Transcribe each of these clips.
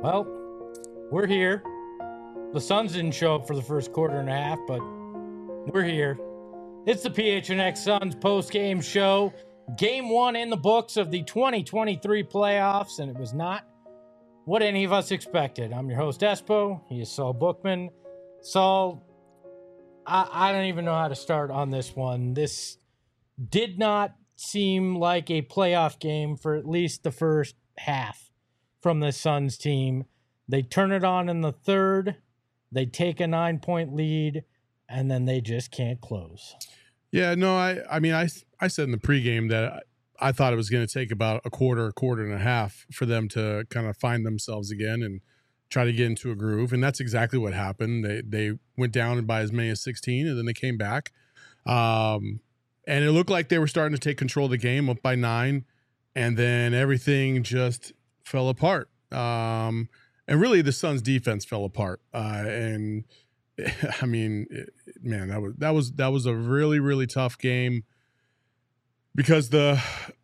Well, we're here. The Suns didn't show up for the first quarter and a half, but we're here. It's the PHNX Suns post-game show. Game one in the books of the 2023 playoffs, and it was not what any of us expected. I'm your host, Espo. He is Saul Bookman. Saul, I don't even know how to start on this one. This did not seem like a playoff game for at least the first half from the Suns team. They turn it on in the third. They take a 9-point lead, and then they just can't close. Yeah, no, I said in the pregame that I thought it was going to take about a quarter and a half for them to kind of find themselves again and try to get into a groove, and that's exactly what happened. They went down by as many as 16, and then they came back, and it looked like they were starting to take control of the game, up by 9, and then everything just fell apart. And really, the Suns' defense fell apart. And I mean, man, that was a really, really tough game because the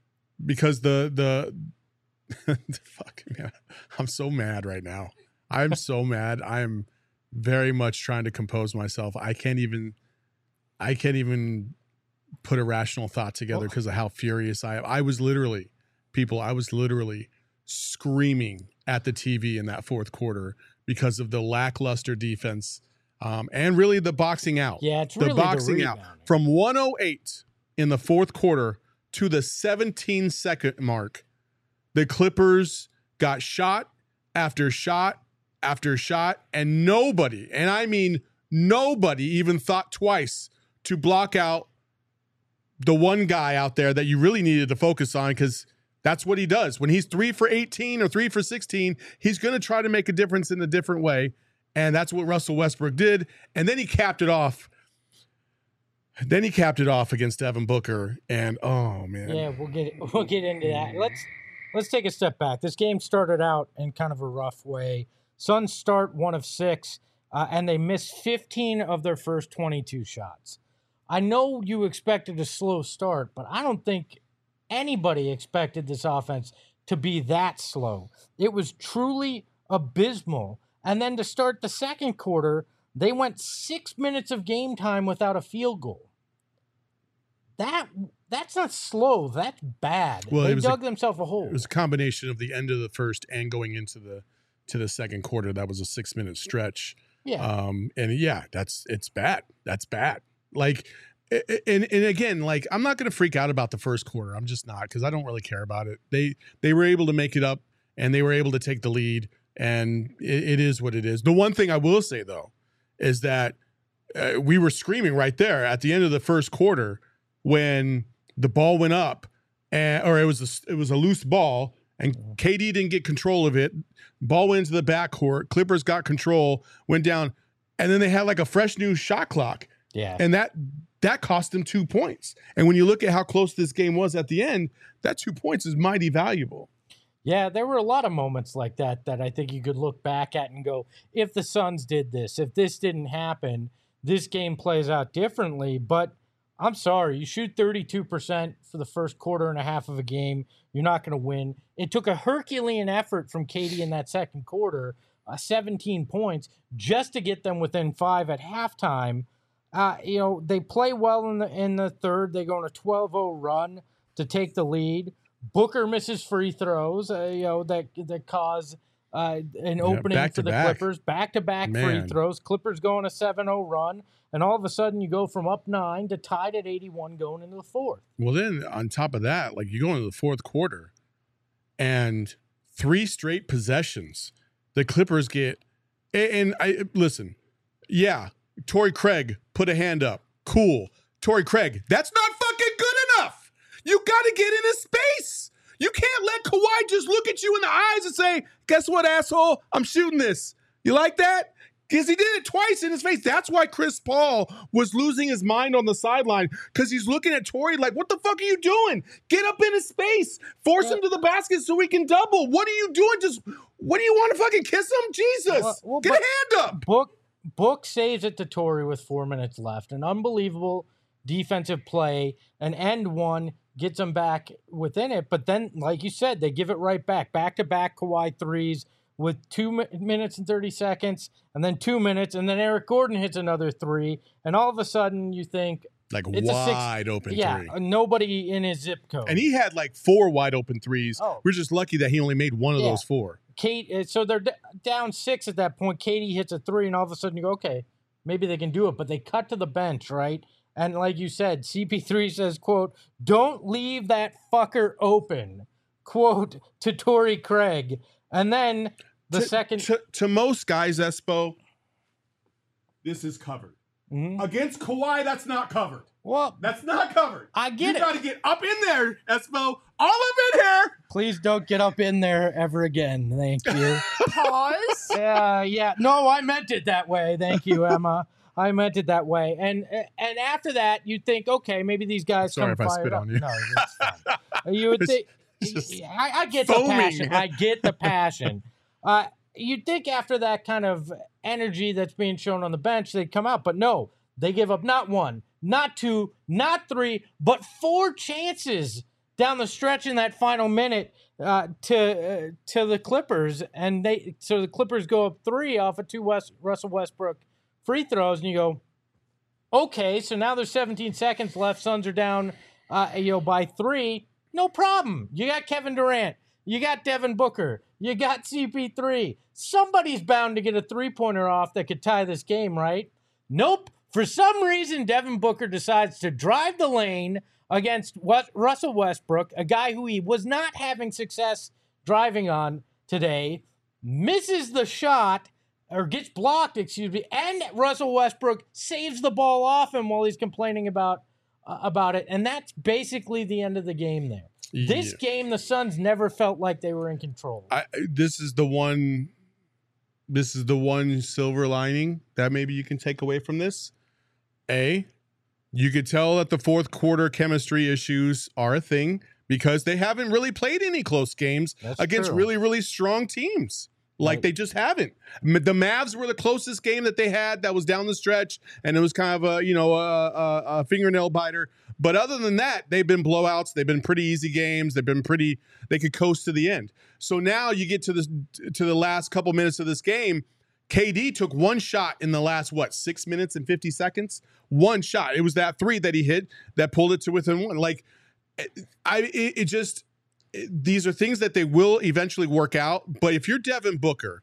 fuck, man, I'm so mad right now. I'm so mad. I'm very much trying to compose myself. I can't even put a rational thought together because of how furious I am. I was literally screaming at the TV in that fourth quarter because of the lackluster defense and really the boxing out. Yeah, it's really the boxing out. From 108 in the fourth quarter to the 17-second mark, the Clippers got shot after shot after shot, and nobody, and I mean nobody, even thought twice to block out the one guy out there that you really needed to focus on, because that's what he does. When he's 3 for 18 or 3 for 16, he's going to try to make a difference in a different way. And that's what Russell Westbrook did. And then he capped it off. Against Devin Booker. And oh man. Yeah, we'll get into that. Let's take a step back. This game started out in kind of a rough way. Suns start 1 of 6, and they missed 15 of their first 22 shots. I know you expected a slow start, but I don't think anybody expected this offense to be that slow. It was truly abysmal. And then to start the second quarter, they went 6 minutes of game time without a field goal. That's not slow. That's bad. Well, they dug themselves a hole. It was a combination of the end of the first and going into the second quarter. That was a 6-minute stretch. Yeah. And yeah, it's bad. That's bad. Like, and again, like, I'm not going to freak out about the first quarter. I'm just not, because I don't really care about it. They were able to make it up, and they were able to take the lead, and it is what it is. The one thing I will say, though, is that we were screaming right there at the end of the first quarter when the ball went up, or it was a loose ball, and KD didn't get control of it. Ball went into the backcourt. Clippers got control, went down, and then they had like a fresh new shot clock. Yeah. And that cost them 2 points. And when you look at how close this game was at the end, that 2 points is mighty valuable. Yeah, there were a lot of moments like that I think you could look back at and go, if the Suns did this, if this didn't happen, this game plays out differently. But I'm sorry, you shoot 32% for the first quarter and a half of a game, you're not going to win. It took a Herculean effort from KD in that second quarter, 17 points, just to get them within 5 at halftime. They play well in the third. They go on a 12-0 run to take the lead. Booker misses free throws, that cause an opening for the Clippers. Back-to-back free throws. Clippers go on a 7-0 run, and all of a sudden you go from up 9 to tied at 81 going into the fourth. Well, then on top of that, like, you go into the fourth quarter, and 3 straight possessions the Clippers get. And listen, yeah, Torrey Craig put a hand up. Cool. Torrey Craig, that's not fucking good enough. You got to get in his space. You can't let Kawhi just look at you in the eyes and say, guess what, asshole? I'm shooting this. You like that? Because he did it twice in his face. That's why Chris Paul was losing his mind on the sideline, because he's looking at Torrey like, what the fuck are you doing? Get up in his space. Force him to the basket so he can double. What are you doing? What do you want to fucking kiss him? Jesus. Get a hand up. Book saves it to Torrey with 4 minutes left. An unbelievable defensive play, an end one, gets them back within it. But then, like you said, they give it right back. Back-to-back Kawhi threes with 2 minutes and 30 seconds, and then 2 minutes, and then Eric Gordon hits another three, and all of a sudden you think like it's wide open three. Yeah, nobody in his zip code. And he had like 4 wide open threes. Oh. We're just lucky that he only made one of those 4. So they're down 6 at that point. Katie hits a three, and all of a sudden you go, okay, maybe they can do it. But they cut to the bench, right? And like you said, CP3 says, quote, "Don't leave that fucker open," quote, to Torrey Craig. And then second... To most guys, Espo, this is covered. Mm-hmm. Against Kawhi, that's not covered. Well, that's not covered. I get it. You got to get up in there, Espo. All up in here. Please don't get up in there ever again. Thank you. Pause. Yeah. No, I meant it that way. Thank you, Emma. I meant it that way. And after that, you'd think, okay, maybe these guys Sorry come if I spit up. on you. No, it's fine. You would think. I get foaming. The passion. I get the passion. You'd think after that kind of energy that's being shown on the bench, they'd come out. But no, they give up not 1, not 2, not 3, but 4 chances down the stretch in that final minute to the Clippers. And so the Clippers go up 3 off of 2 Russell Westbrook free throws, and you go, okay, so now there's 17 seconds left. Suns are down by 3. No problem. You got Kevin Durant. You got Devin Booker. You got CP3. Somebody's bound to get a three-pointer off that could tie this game, right? Nope. For some reason, Devin Booker decides to drive the lane against Russell Westbrook, a guy who he was not having success driving on today, misses the shot, or gets blocked, and Russell Westbrook saves the ball off him while he's complaining about it, and that's basically the end of the game there. Yeah. This game, the Suns never felt like they were in control. This is the one silver lining that maybe you can take away from this. You could tell that the fourth quarter chemistry issues are a thing because they haven't really played any close games against really, really strong teams. Like, they just haven't. The Mavs were the closest game that they had that was down the stretch, and it was kind of a fingernail biter. But other than that, they've been blowouts. They've been pretty easy games. They could coast to the end. So now you get to the last couple minutes of this game. KD took one shot in the last, 6 minutes and 50 seconds? One shot. It was that three that he hit that pulled it to within one. Like, these are things that they will eventually work out. But if you're Devin Booker,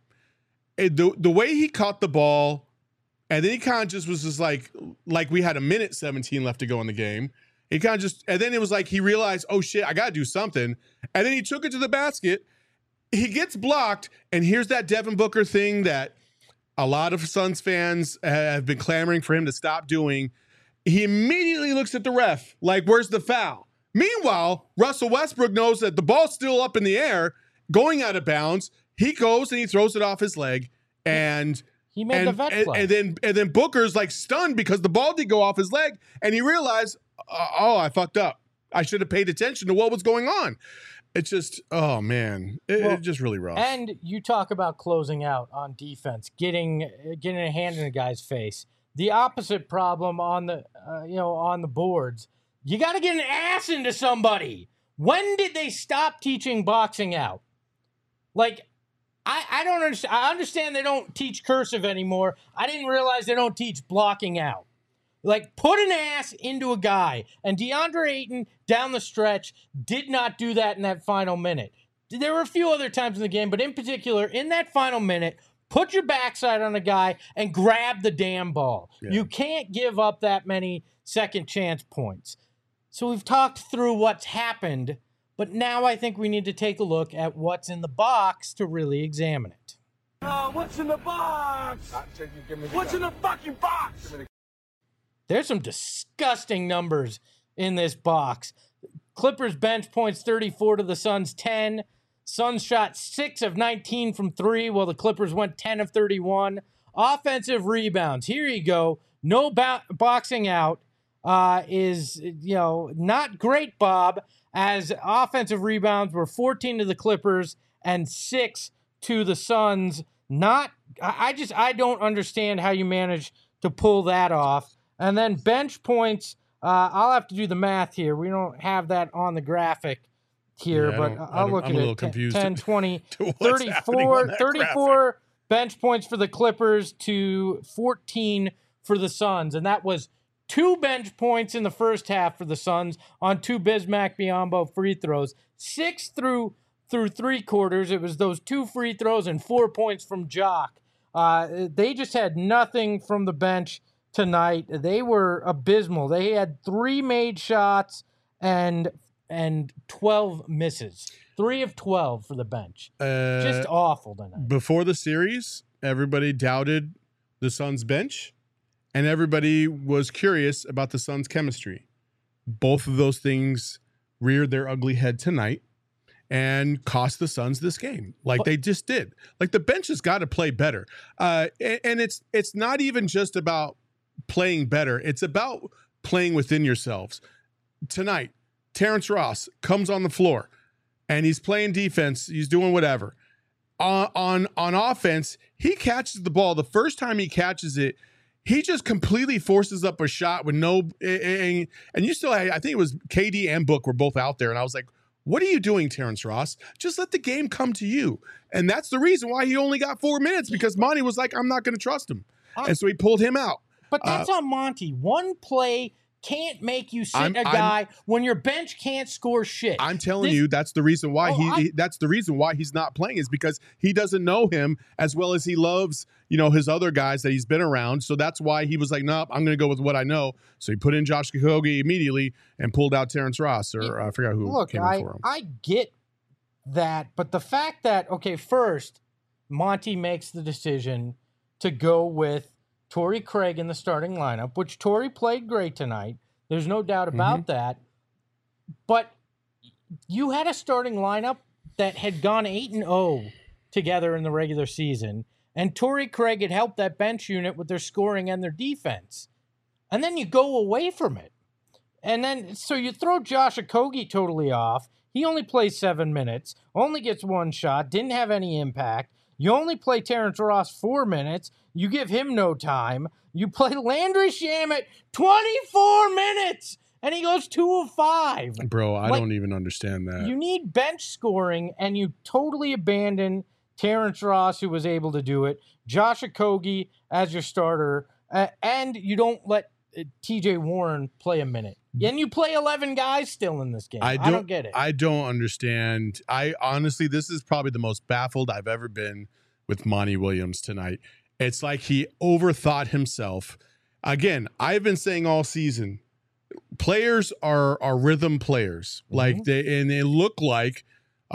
the way he caught the ball, and then he kind of just was just like we had 1:17 left to go in the game. He kind of just, and then it was like he realized, oh shit, I got to do something. And then he took it to the basket. He gets blocked. And here's that Devin Booker thing that a lot of Suns fans have been clamoring for him to stop doing. He immediately looks at the ref like, where's the foul? Meanwhile, Russell Westbrook knows that the ball's still up in the air, going out of bounds. He goes and he throws it off his leg, and he made the vet play. And then Booker's like stunned because the ball did go off his leg, and he realized, oh, I fucked up. I should have paid attention to what was going on. It's just, oh man, it's just really rough. And you talk about closing out on defense, getting a hand in a guy's face. The opposite problem on the boards. You got to get an ass into somebody. When did they stop teaching boxing out? Like, I don't understand. I understand they don't teach cursive anymore. I didn't realize they don't teach blocking out. Like, put an ass into a guy. And DeAndre Ayton, down the stretch, did not do that in that final minute. There were a few other times in the game, but in particular, in that final minute, put your backside on a guy and grab the damn ball. Yeah. You can't give up that many second chance points. So we've talked through what's happened, but now I think we need to take a look at what's in the box to really examine it. What's in the box? What's in the fucking box? There's some disgusting numbers in this box. Clippers bench points 34 to the Suns 10. Suns shot 6 of 19 from 3, while the Clippers went 10 of 31. Offensive rebounds. Here you go. No boxing out. Is not great, Bob, as offensive rebounds were 14 to the Clippers and 6 to the Suns. I don't understand how you manage to pull that off. And then bench points, I'll have to do the math here. We don't have that on the graphic here, Yeah, but I'll look I'm at a little it. confused 10, 20, to what's happening on that 34 bench points for the Clippers to 14 for the Suns. And that was 2 bench points in the first half for the Suns on 2 Bismack Biyombo free throws. 6 through 3 quarters. It was those 2 free throws and 4 points from Jock. They just had nothing from the bench tonight. They were abysmal. They had 3 made shots and 12 misses. 3 of 12 for the bench. Just awful tonight. Before the series, everybody doubted the Suns bench, and everybody was curious about the Suns chemistry. Both of those things reared their ugly head tonight and cost the Suns this game, like they just did. Like the bench has got to play better, and it's not even just about playing better. It's about playing within yourselves. Tonight, Terrence Ross comes on the floor, and he's playing defense. He's doing whatever. On offense, he catches the ball. The first time he catches it, he just completely forces up a shot with no. And you still, I think it was KD and Book were both out there, and I was like, "What are you doing, Terrence Ross? Just let the game come to you." And that's the reason why he only got 4 minutes, because Monty was like, "I'm not going to trust him," and so he pulled him out. But that's on Monty. One play can't make you sit a guy when your bench can't score shit. I'm telling you, that's the reason why that's the reason why he's not playing, is because he doesn't know him as well as he loves, his other guys that he's been around. So that's why he was like, "Nope, I'm going to go with what I know." So he put in Josh Okogie immediately and pulled out Terrence Ross, or I forgot who came in for him. I get that, but the fact that, first, Monty makes the decision to go with Torrey Craig in the starting lineup, which Torrey played great tonight. There's no doubt about that. But you had a starting lineup that had gone 8-0 together in the regular season, and Torrey Craig had helped that bench unit with their scoring and their defense. And then you go away from it. And then, so you throw Josh Okogie totally off. He only plays 7 minutes, only gets 1 shot, didn't have any impact. You only play Terrence Ross 4 minutes. You give him no time. You play Landry Shamet 24 minutes, and he goes 2 of 5. Bro, I don't even understand that. You need bench scoring, and you totally abandon Terrence Ross, who was able to do it, Josh Okogie as your starter, and you don't let TJ Warren play a minute. And you play 11 guys still in this game. I don't get it. I don't understand. I honestly, this is probably the most baffled I've ever been with Monty Williams tonight. It's like he overthought himself. Again, I've been saying all season, players are rhythm players. Like they look like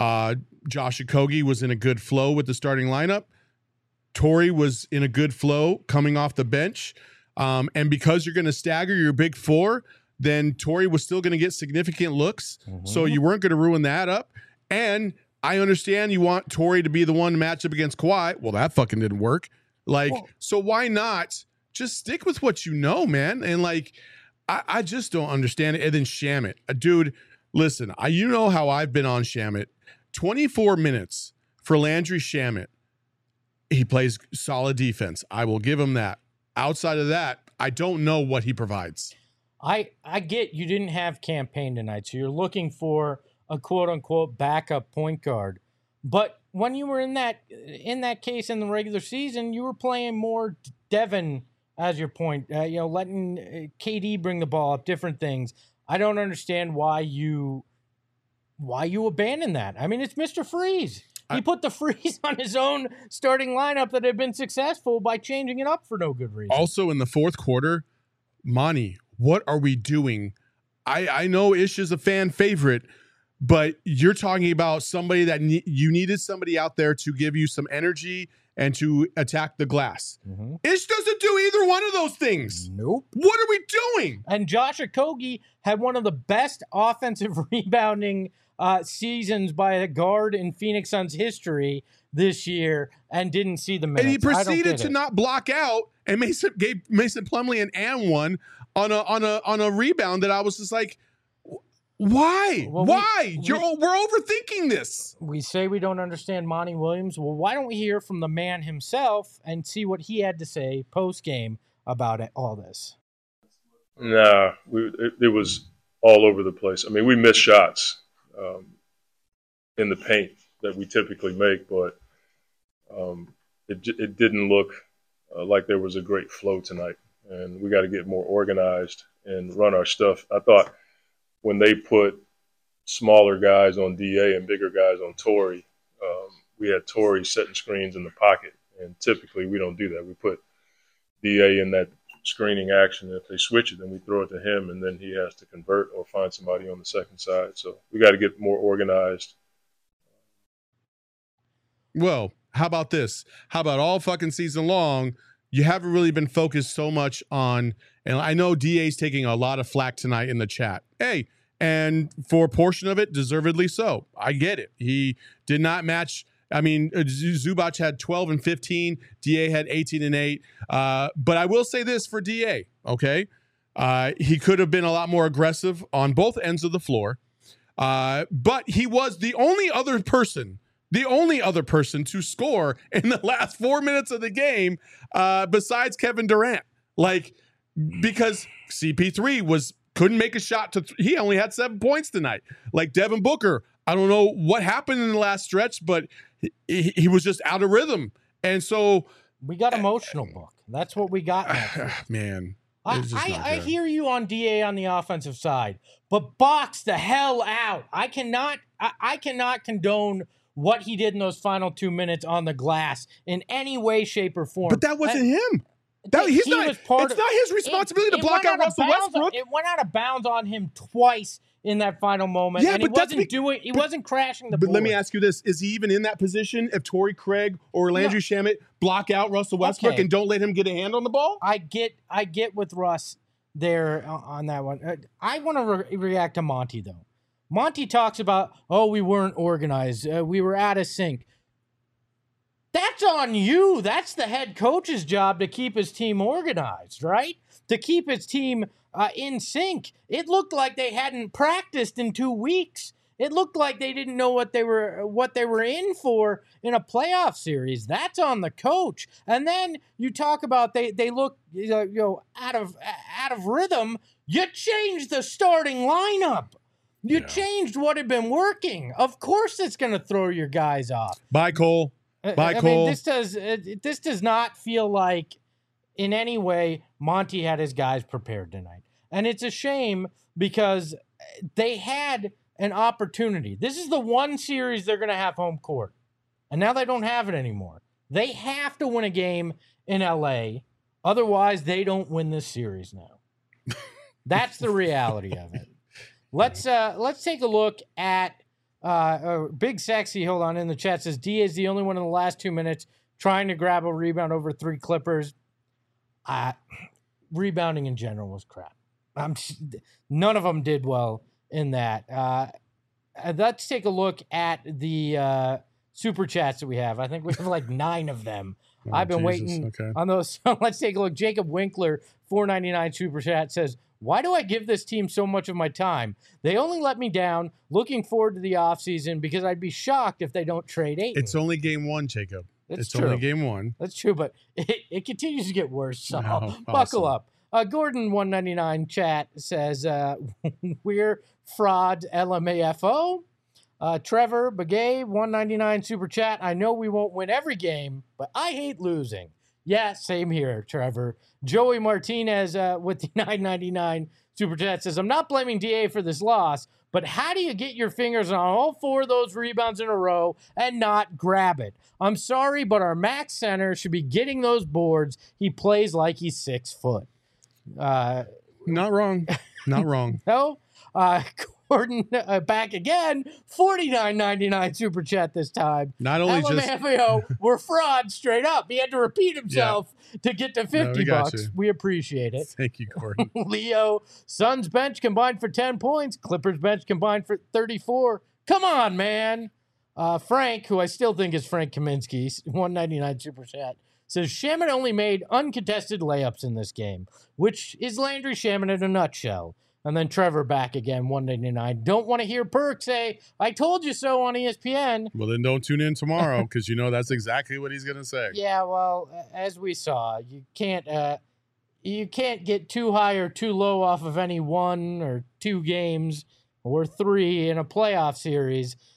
Josh Okogie was in a good flow with the starting lineup. Torrey was in a good flow coming off the bench. And because you're going to stagger your big four, then Torrey was still going to get significant looks. So you weren't going to ruin that up. And I understand you want Torrey to be the one to match up against Kawhi. Well, that fucking didn't work. So why not just stick with what you know, man? And I just don't understand it. And then Shamet, dude, listen, you know how I've been on Shamet. 24 minutes for Landry Shamet. He plays solid defense. I will give him that. Outside of that, I don't know what he provides. I get you didn't have campaign tonight, so you're looking for a quote-unquote backup point guard. But when you were in that case in the regular season, you were playing more Devin as your point, letting KD bring the ball up, different things. I don't understand why you abandon that. I mean, it's Mr. Freeze. He put the freeze on his own starting lineup that had been successful by changing it up for no good reason. Also, in the fourth quarter, Monty, what are we doing? I know Ish is a fan favorite, but you're talking about somebody that you needed somebody out there to give you some energy and to attack the glass. Ish doesn't do either one of those things. Nope. What are we doing? And Josh Okogie had one of the best offensive rebounding seasons by a guard in Phoenix Suns history this year and didn't see the minutes. And he proceeded to not block out, and gave Mason Plumlee an and one on a rebound that I was just like, why? Well, why? We're overthinking this. We say we don't understand Monty Williams. Well, why don't we hear from the man himself and see what he had to say post-game about all this? Nah, it was all over the place. I mean, we missed shots. in the paint that we typically make, but it didn't look like there was a great flow tonight. And we got to get more organized and run our stuff. I thought when they put smaller guys on DA and bigger guys on Torrey, we had Torrey setting screens in the pocket. And typically we don't do that. We put DA in that screening action. If they switch it, then we throw it to him, and then he has to convert or find somebody on the second side. So we got to get more organized. Well, how about this? How about all fucking season long, you haven't really been focused so much on, and I know DA's taking a lot of flack tonight in the chat. Hey, and for a portion of it, deservedly so. I get it. He did not match. I mean, Zubac had 12 and 15. DA had 18 and 8. But I will say this for DA, okay? He could have been a lot more aggressive on both ends of the floor. But he was the only other person to score in the last 4 minutes of the game besides Kevin Durant. Like, because CP3 couldn't make a shot he only had 7 points tonight. Like Devin Booker, I don't know what happened in the last stretch, but he was just out of rhythm. And so we got emotional, Book. That's what we got. Man. I hear you on DA on the offensive side, but box the hell out. I cannot condone what he did in those final 2 minutes on the glass in any way, shape, or form. But that wasn't him. It's not his responsibility to block out Russell Westbrook. It went out of bounds on him twice in that final moment. Yeah, and he wasn't crashing the board. But let me ask you this. Is he even in that position if Torrey Craig or Landry Shamet block out Russell Westbrook and don't let him get a hand on the ball? I get with Russ there on that one. I want to react to Monty, though. Monty talks about, we weren't organized. We were out of sync. That's on you. That's the head coach's job to keep his team organized, right? To keep his team in sync. It looked like they hadn't practiced in 2 weeks. It looked like they didn't know what they were in for in a playoff series. That's on the coach. And then you talk about they look out of rhythm. You changed the starting lineup. You changed what had been working. Of course, it's going to throw your guys off. Bye, Cole. Cole. Mean, this does not feel like in any way Monty had his guys prepared tonight. And it's a shame because they had an opportunity. This is the one series they're going to have home court. And now they don't have it anymore. They have to win a game in LA. Otherwise, they don't win this series now. That's the reality of it. Let's take a look at Big Sexy, hold on, in the chat says, D is the only one in the last 2 minutes trying to grab a rebound over 3 Clippers. Rebounding in general was crap. None of them did well in that. Let's take a look at the super chats that we have. I think we have like 9 of them. I've been waiting on those. So let's take a look. Jacob Winkler, $4.99 super chat says, why do I give this team so much of my time? They only let me down. Looking forward to the offseason because I'd be shocked if they don't trade Ayton. It's only game 1, Jacob. It's true. Only game 1. That's true, but it continues to get worse. So buckle up. Gordon 199 chat says we're fraud LMAFO. Trevor Begay 199 super chat. I know we won't win every game, but I hate losing. Yeah, same here, Trevor. Joey Martinez with the $9.99 super chat says, I'm not blaming DA for this loss, but how do you get your fingers on all 4 of those rebounds in a row and not grab it? I'm sorry, but our max center should be getting those boards. He plays like he's 6 foot. Not wrong. Not wrong. No. Gordon back again, $49.99 super chat this time. Not only LMFAO, we're fraud straight up. He had to repeat himself to get to $50. We appreciate it. Thank you, Gordon. Leo, Suns bench combined for 10 points. Clippers bench combined for 34. Come on, man. Frank, who I still think is Frank Kaminsky, $1.99 super chat, says Shamet only made uncontested layups in this game, which is Landry Shamet in a nutshell. And then Trevor back again, $1.99. Don't want to hear Perk say, I told you so on ESPN. Well, then don't tune in tomorrow because you know that's exactly what he's going to say. Yeah, well, as we saw, you can't get too high or too low off of any 1 or 2 games or 3 in a playoff series.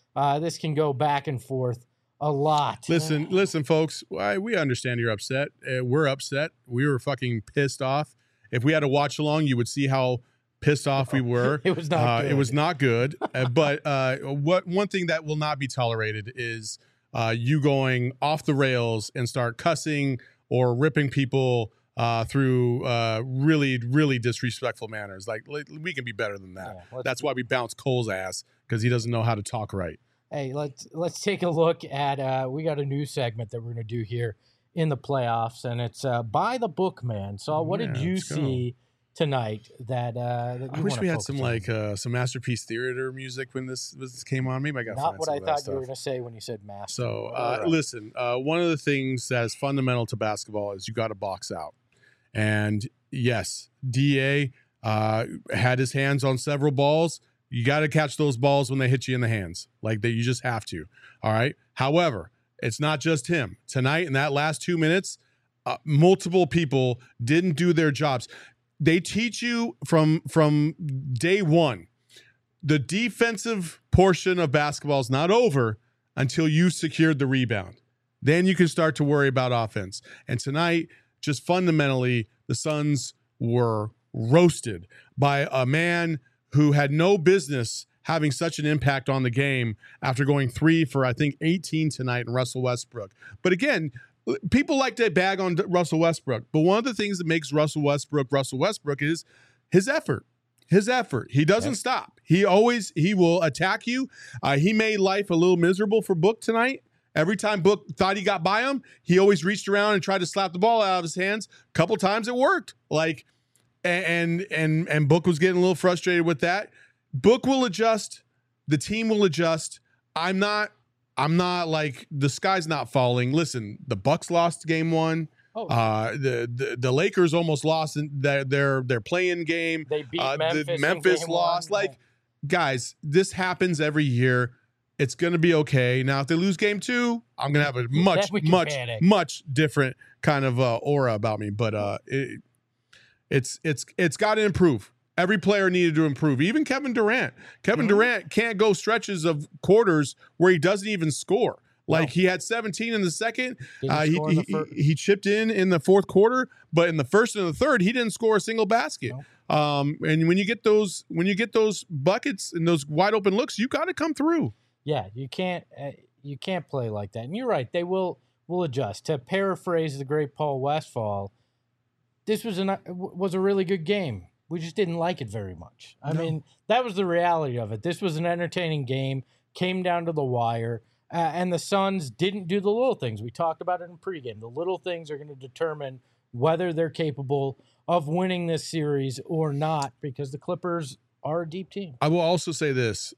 This can go back and forth a lot. Listen, folks. We understand you're upset. We're upset. We were fucking pissed off. If we had to watch along, you would see how pissed off we were. It was not good. It was not good. But one thing that will not be tolerated is you going off the rails and start cussing or ripping people through really, really disrespectful manners. Like, we can be better than that. Yeah, that's why we bounce Cole's ass, because he doesn't know how to talk right. Hey, let's take a look at we got a new segment that we're going to do here in the playoffs, and it's by the book, man. So what did you see tonight that that you I wish we had some Masterpiece Theater music when this came on. Maybe I got not what I thought you were going to say when you said master. So listen, one of the things that's fundamental to basketball is you got to box out. And yes, DA had his hands on several balls. You got to catch those balls when they hit you in the hands. Like that, you just have to. All right. However, it's not just him. Tonight, in that last 2 minutes, multiple people didn't do their jobs. They teach you from day one. The defensive portion of basketball is not over until you secured the rebound. Then you can start to worry about offense. And tonight, just fundamentally, the Suns were roasted by a man who had no business having such an impact on the game after going 3 for, I think, 18 tonight in Russell Westbrook. But again, people like to bag on Russell Westbrook. But one of the things that makes Russell Westbrook is his effort. His effort. He doesn't stop. He will attack you. He made life a little miserable for Book tonight. Every time Book thought he got by him, he always reached around and tried to slap the ball out of his hands. A couple times it worked. And Book was getting a little frustrated with that. Book will adjust. The team will adjust. I'm not like the sky's not falling. Listen, the Bucks lost game 1. The Lakers almost lost in their play-in game. They beat Memphis. Memphis lost. Guys, this happens every year. It's going to be okay. Now, if they lose game 2, I'm going to have a much different kind of aura about me. But it's got to improve. Every player needed to improve. Even Kevin Durant. Durant can't go stretches of quarters where he doesn't even score. He had 17 in the second. He chipped in the fourth quarter, but in the first and the third, he didn't score a single basket. And when you get those buckets and those wide open looks, you got to come through. Yeah, you can't play like that. And you're right; they will adjust. To paraphrase the great Paul Westphal, this was a really good game. We just didn't like it very much. I mean, that was the reality of it. This was an entertaining game, came down to the wire, and the Suns didn't do the little things. We talked about it in pregame. The little things are going to determine whether they're capable of winning this series or not, because the Clippers are a deep team. I will also say this,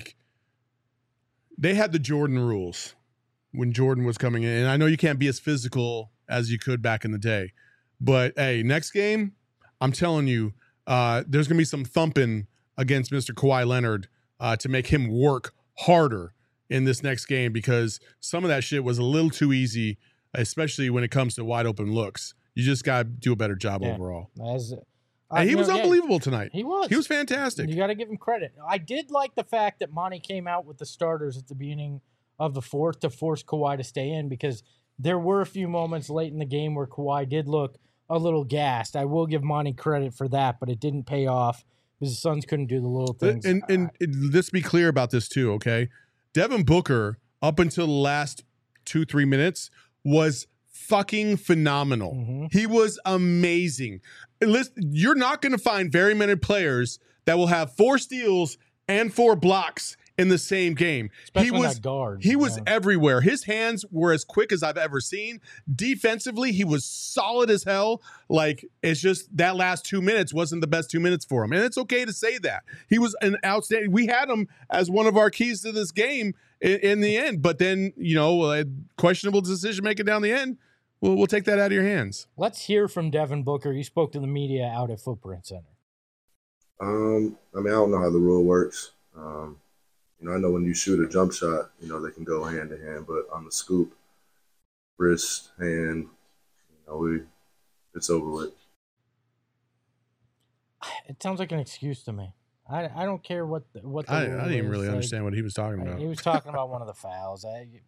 they had the Jordan rules when Jordan was coming in. And I know you can't be as physical as you could back in the day. But, hey, next game, I'm telling you, there's going to be some thumping against Mr. Kawhi Leonard to make him work harder in this next game, because some of that shit was a little too easy, especially when it comes to wide open looks. You just got to do a better job overall. And he was unbelievable tonight. He was. He was fantastic. You got to give him credit. I did like the fact that Monty came out with the starters at the beginning of the fourth to force Kawhi to stay in, because there were a few moments late in the game where Kawhi did look a little gassed. I will give Monty credit for that, but it didn't pay off because the Suns couldn't do the little things. And let's be clear about this too, okay? Devin Booker, up until the last 2-3 minutes, was fucking phenomenal. Mm-hmm. He was amazing. Listen, you're not going to find very many players that will have 4 steals and 4 blocks in the same game. Especially that guard. He was everywhere. His hands were as quick as I've ever seen. Defensively, he was solid as hell. It's just that last 2 minutes wasn't the best 2 minutes for him. And it's okay to say that. He was an outstanding. We had him as one of our keys to this game in the end. But then, questionable decision making down the end. We'll take that out of your hands. Let's hear from Devin Booker. He spoke to the media out at Footprint Center. I don't know how the rule works. I know when you shoot a jump shot, they can go hand to hand, but on the scoop, wrist, hand, it's over with. It sounds like an excuse to me. I don't care what the I rule didn't even is. really Like, understand what he was talking about. he was talking about one of the fouls.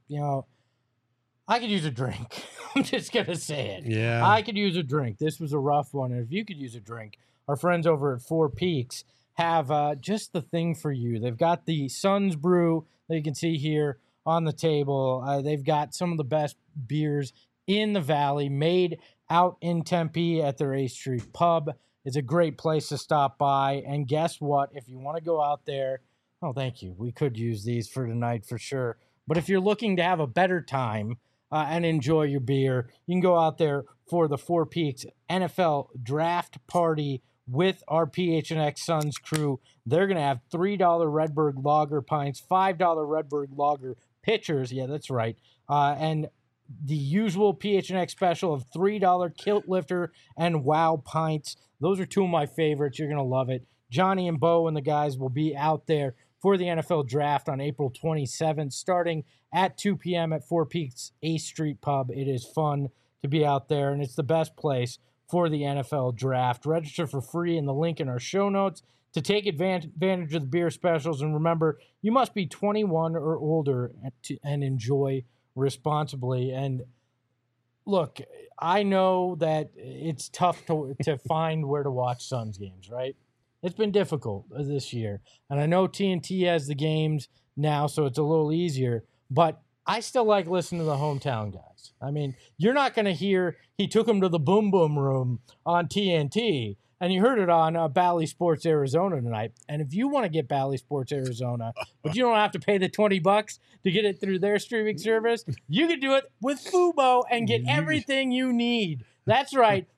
I could use a drink. I'm just going to say it. Yeah. I could use a drink. This was a rough one. And if you could use a drink, our friends over at Four Peaks have just the thing for you. They've got the Suns Brew that you can see here on the table. They've got some of the best beers in the Valley made out in Tempe at their 8th Street Pub. It's a great place to stop by. And guess what? If you want to go out there, oh, thank you. We could use these for tonight for sure. But if you're looking to have a better time, and enjoy your beer, you can go out there for the Four Peaks NFL Draft Party with our PHNX Suns crew. They're going to have $3 Redbird Lager pints, $5 Redbird Lager pitchers. Yeah, that's right. And the usual PHNX special of $3 Kilt Lifter and Wow pints. Those are two of my favorites. You're going to love it. Johnny and Bo and the guys will be out there for the NFL Draft on April 27th, starting at 2 p.m. at Four Peaks 8th Street Pub. It is fun to be out there, and it's the best place for the NFL Draft. Register for free in the link in our show notes to take advantage of the beer specials. And remember, you must be 21 or older and enjoy responsibly. And look, I know that it's tough to find where to watch Suns games, right? It's been difficult this year. And I know TNT has the games now, so it's a little easier. But I still like listening to the hometown guys. I mean, you're not going to hear he took him to the Boom Boom Room on TNT, and you heard it on Bally Sports Arizona tonight. And if you want to get Bally Sports Arizona, but you don't have to pay the $20 to get it through their streaming service, you can do it with Fubo and get everything you need. That's right.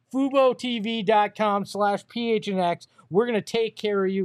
FuboTV.com/PHNX. We're going to take care of you.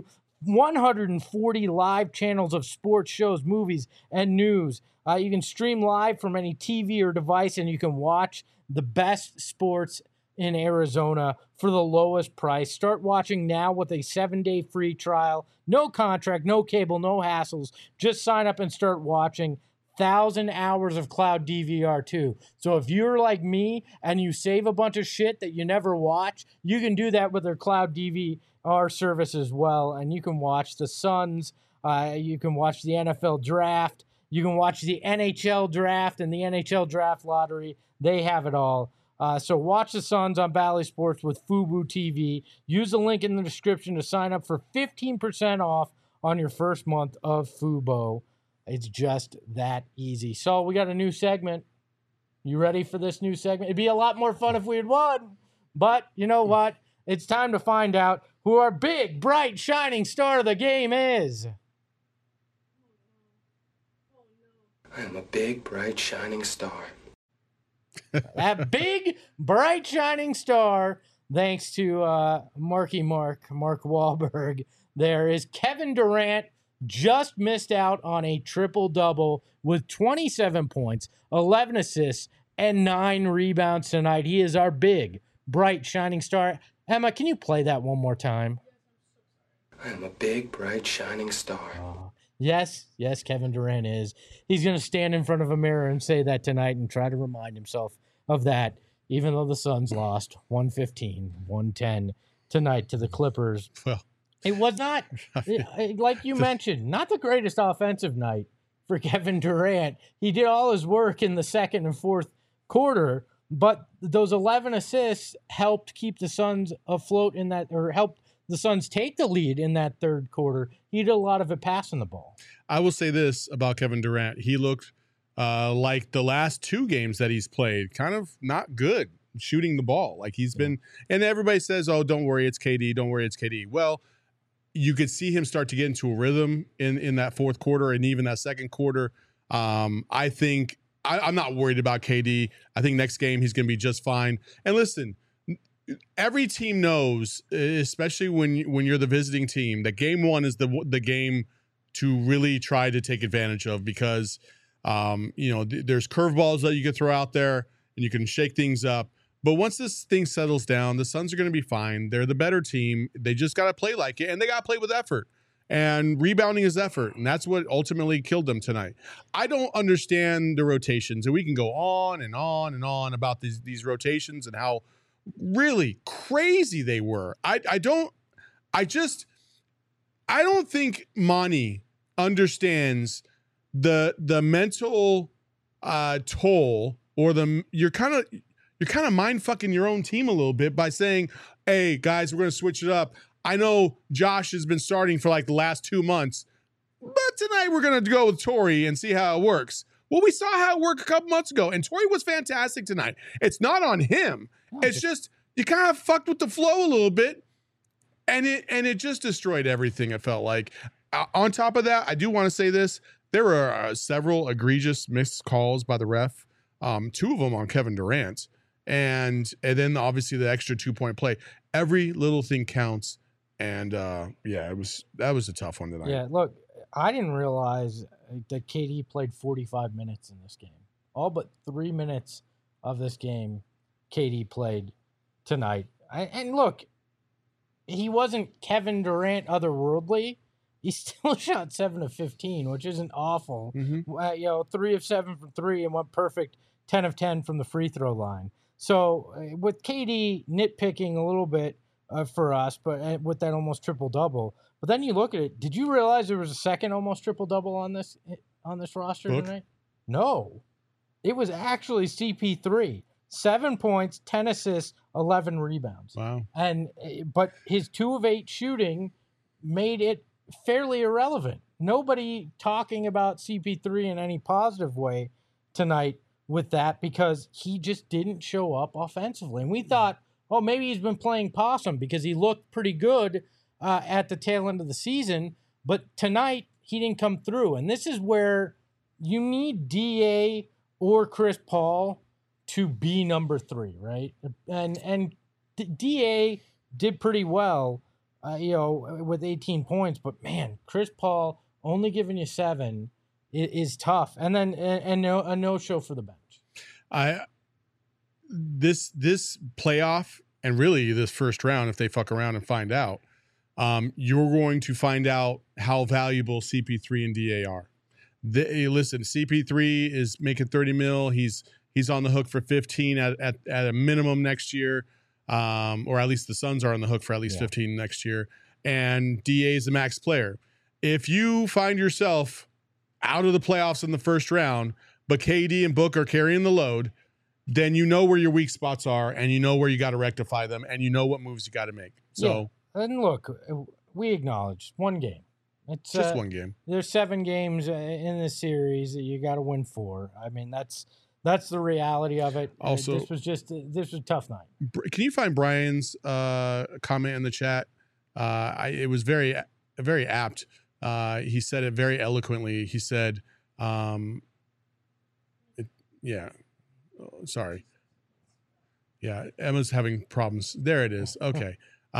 140 live channels of sports shows, movies, and news. You can stream live from any TV or device, and you can watch the best sports in Arizona for the lowest price. Start watching now with a 7-day free trial. No contract, no cable, no hassles. Just sign up and start watching. 1,000 hours of cloud DVR too. So if you're like me and you save a bunch of shit that you never watch, you can do that with their cloud DVR service as well. And you can watch the Suns. You can watch the NFL Draft. You can watch the NHL Draft and the NHL Draft Lottery. They have it all. So watch the Suns on Bally Sports with Fubo TV. Use the link in the description to sign up for 15% off on your first month of Fubo. It's just that easy. So we got a new segment. You ready for this new segment? It'd be a lot more fun if we had won. But you know what? It's time to find out who our big, bright, shining star of the game is. I'm a big, bright, shining star. That big, bright, shining star, thanks to Mark Wahlberg, there is Kevin Durant. Just missed out on a triple-double with 27 points, 11 assists, and 9 rebounds tonight. He is our big, bright, shining star. Emma, can you play that one more time? I'm a big, bright, shining star. Yes, Kevin Durant is. He's going to stand in front of a mirror and say that tonight and try to remind himself of that, even though the Suns lost 115-110 tonight to the Clippers. Well, it was not, like you mentioned, not the greatest offensive night for Kevin Durant. He did all his work in the second and fourth quarter, but those 11 assists helped keep the Suns afloat in that, or helped the Suns take the lead in that third quarter. He did a lot of it passing the ball. I will say this about Kevin Durant. He looked like the last 2 games that he's played, kind of not good shooting the ball. Like he's been, and everybody says, oh, don't worry, it's KD. Don't worry, it's KD. Well, you could see him start to get into a rhythm in that fourth quarter and even that second quarter. I think I'm not worried about KD. I think next game he's going to be just fine. And listen, every team knows, especially when you're the visiting team, that game one is the game to really try to take advantage of because there's curveballs that you can throw out there and you can shake things up. But once this thing settles down, the Suns are going to be fine. They're the better team. They just got to play like it, and they got to play with effort. And rebounding is effort, and that's what ultimately killed them tonight. I don't understand the rotations, and we can go on and on and on about these rotations and how really crazy they were. I don't think Monty understands the mental toll, or you're kind of mind fucking your own team a little bit by saying, hey guys, we're going to switch it up. I know Josh has been starting for like the last 2 months, but tonight we're going to go with Torrey and see how it works. Well, we saw how it worked a couple months ago, and Torrey was fantastic tonight. It's not on him. It's just you kind of fucked with the flow a little bit, and it just destroyed everything, it felt like. On top of that, I do want to say this. There were several egregious missed calls by the ref, 2 of them on Kevin Durant, and then obviously the extra 2-point play. Every little thing counts, and that was a tough one tonight. Yeah, look, I didn't realize that KD played 45 minutes in this game. All but 3 minutes of this game, KD played tonight. And look, he wasn't Kevin Durant otherworldly. He still shot 7 of 15, which isn't awful. 3 of 7 from 3 and went perfect 10 of 10 from the free throw line. So with KD nitpicking a little bit for us, but with that almost triple-double. But then you look at it. Did you realize there was a second almost triple-double on this roster tonight? No. It was actually CP3. 7 points, 10 assists, 11 rebounds. Wow. But his 2 of 8 shooting made it fairly irrelevant. Nobody talking about CP3 in any positive way tonight with that, because he just didn't show up offensively. And we thought, oh, maybe he's been playing possum because he looked pretty good at the tail end of the season. But tonight, he didn't come through. And this is where you need DA or Chris Paul to be number 3, right? And DA did pretty well, with 18 points. But, man, Chris Paul only giving you 7 is tough. And then a no-show for the bench. This playoff, and really this first round, if they fuck around and find out, you're going to find out how valuable CP3 and DA are. Listen, CP3 is making $30 million. He's on the hook for 15 at a minimum next year, or at least the Suns are on the hook for at least 15 next year. And DA is the max player. If you find yourself out of the playoffs in the first round, but KD and Book are carrying the load, then you know where your weak spots are, and you know where you got to rectify them, and you know what moves you got to make. So, and look, we acknowledge one game. It's just one game. There's 7 games in this series that you got to win 4. I mean, that's the reality of it. Also, this was a tough night. Can you find Brian's comment in the chat? It was very, very apt. He said it very eloquently. He said, sorry. Yeah, Emma's having problems. There it is. Okay.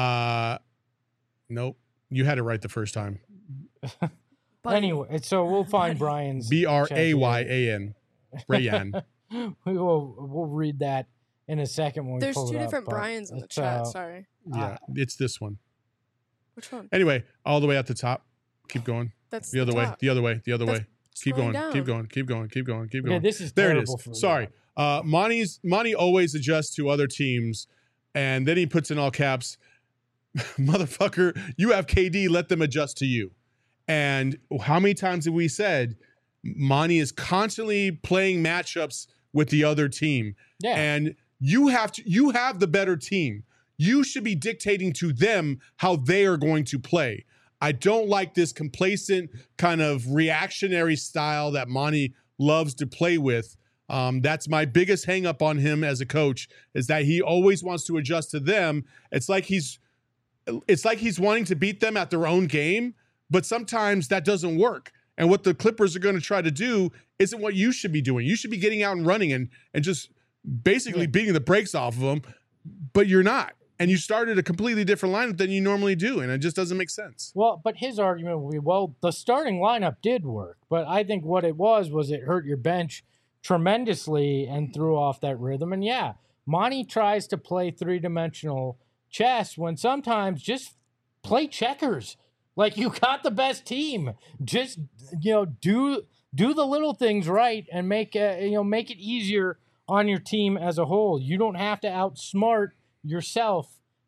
Nope. You had it right the first time. Anyway, so we'll find Brian's Bryan. Brian. We'll read that in a second when we There's pull it up. There's 2 different Brians in the chat. Sorry. Yeah, it's this one. Which one? Anyway, all the way at the top. Keep going. That's the other way. The other way. The other way. Keep going. Down. Keep going. Keep going. Keep going. Keep going. Yeah, this is there. It terrible. is. Sorry. Monty always adjusts to other teams, and then he puts in all caps, "Motherfucker, you have KD. Let them adjust to you." And how many times have we said Monty is constantly playing matchups with the other team? Yeah. And you have the better team. You should be dictating to them how they are going to play. I don't like this complacent kind of reactionary style that Monty loves to play with. That's my biggest hang up on him as a coach, is that he always wants to adjust to them. It's like he's wanting to beat them at their own game, but sometimes that doesn't work. And what the Clippers are going to try to do isn't what you should be doing. You should be getting out and running and just basically beating the brakes off of them, but you're not. And you started a completely different lineup than you normally do, and it just doesn't make sense. Well, but his argument would be, well, the starting lineup did work, but I think what it was it hurt your bench tremendously and threw off that rhythm. And yeah, Monty tries to play 3-dimensional chess when sometimes just play checkers. Like, you got the best team. Just, do the little things right and make it easier on your team as a whole. You don't have to outsmart yourself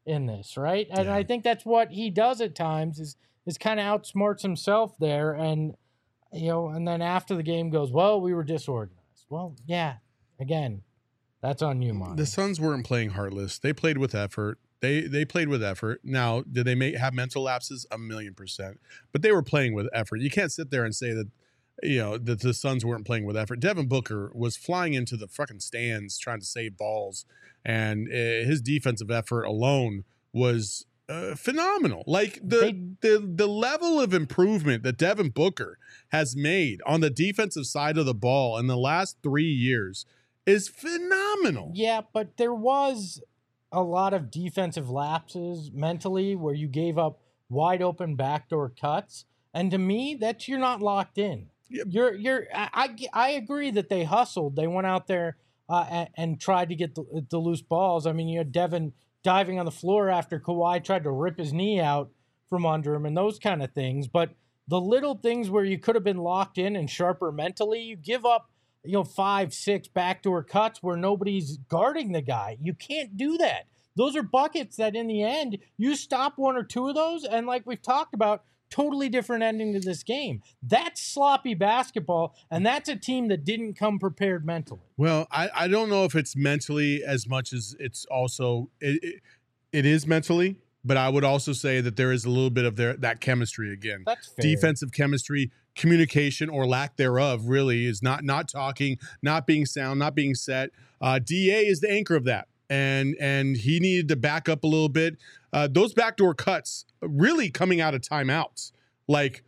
in this, right? And Yeah. I think that's what he does at times is kind of outsmarts himself there. And, and then after the game goes, well, we were disorganized. Well, yeah, again, that's on you, Monty. The Suns weren't playing heartless. They played with effort. They played with effort. Now, did they have mental lapses? 1,000,000%. But they were playing with effort. You can't sit there and say that, that the Suns weren't playing with effort. Devin Booker was flying into the fucking stands trying to save balls, and his defensive effort alone was phenomenal. Like the level of improvement that Devin Booker has made on the defensive side of the ball in the last 3 years is phenomenal. Yeah, but there was a lot of defensive lapses mentally where you gave up wide open backdoor cuts, and to me, that's you're not locked in. Yep. I agree that they hustled. They went out there and tried to get the loose balls. I mean, you had Devin diving on the floor after Kawhi tried to rip his knee out from under him and those kind of things. But the little things where you could have been locked in and sharper mentally, you give up 5, 6 backdoor cuts where nobody's guarding the guy. You can't do that. Those are buckets that in the end, you stop 1 or 2 of those, and like we've talked about, totally different ending to this game. That's sloppy basketball, and that's a team that didn't come prepared mentally. Well, I don't know if it's mentally as much as it's also it is mentally, but I would also say that there is a little bit of that chemistry again. That's fair. Defensive chemistry, communication or lack thereof really is not talking, not being sound, not being set. DA is the anchor of that. And he needed to back up a little bit. Those backdoor cuts really coming out of timeouts, like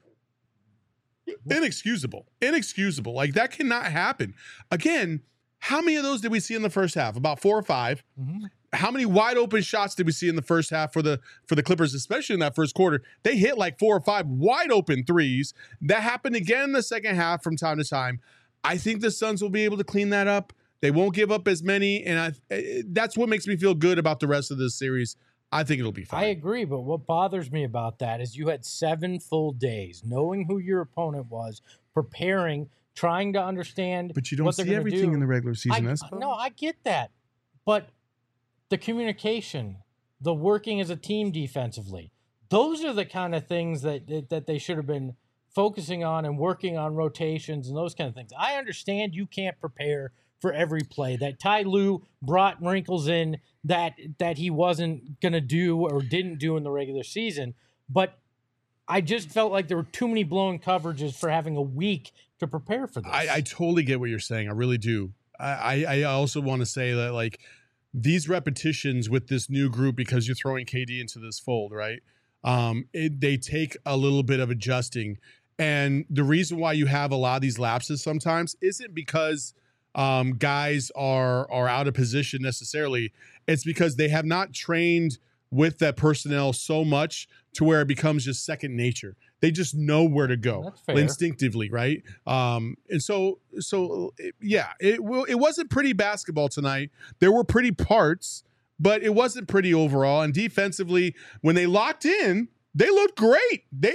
inexcusable. Like that cannot happen. Again, how many of those did we see in the first half? About 4 or 5. Mm-hmm. How many wide open shots did we see in the first half for the Clippers, especially in that first quarter? They hit like 4 or 5 wide open threes. That happened again in the second half from time to time. I think the Suns will be able to clean that up. They won't give up as many, and that's what makes me feel good about the rest of this series. I think it'll be fine. I agree, but what bothers me about that is you had 7 full days knowing who your opponent was, preparing, trying to understand. But you don't see everything in the regular season. No, I get that, but the communication, the working as a team defensively, those are the kind of things that they should have been focusing on and working on rotations and those kind of things. I understand you can't prepare for every play, that Ty Lue brought wrinkles in that he wasn't going to do or didn't do in the regular season. But I just felt like there were too many blown coverages for having a week to prepare for this. I totally get what you're saying. I really do. I also want to say that, like, these repetitions with this new group, because you're throwing KD into this fold, right? They take a little bit of adjusting. And the reason why you have a lot of these lapses sometimes isn't because guys are out of position necessarily. It's because they have not trained with that personnel so much to where it becomes just second nature. They just know where to go instinctively, right? And so yeah, it wasn't pretty basketball tonight. There were pretty parts, but it wasn't pretty overall. And defensively, when they locked in, they looked great. They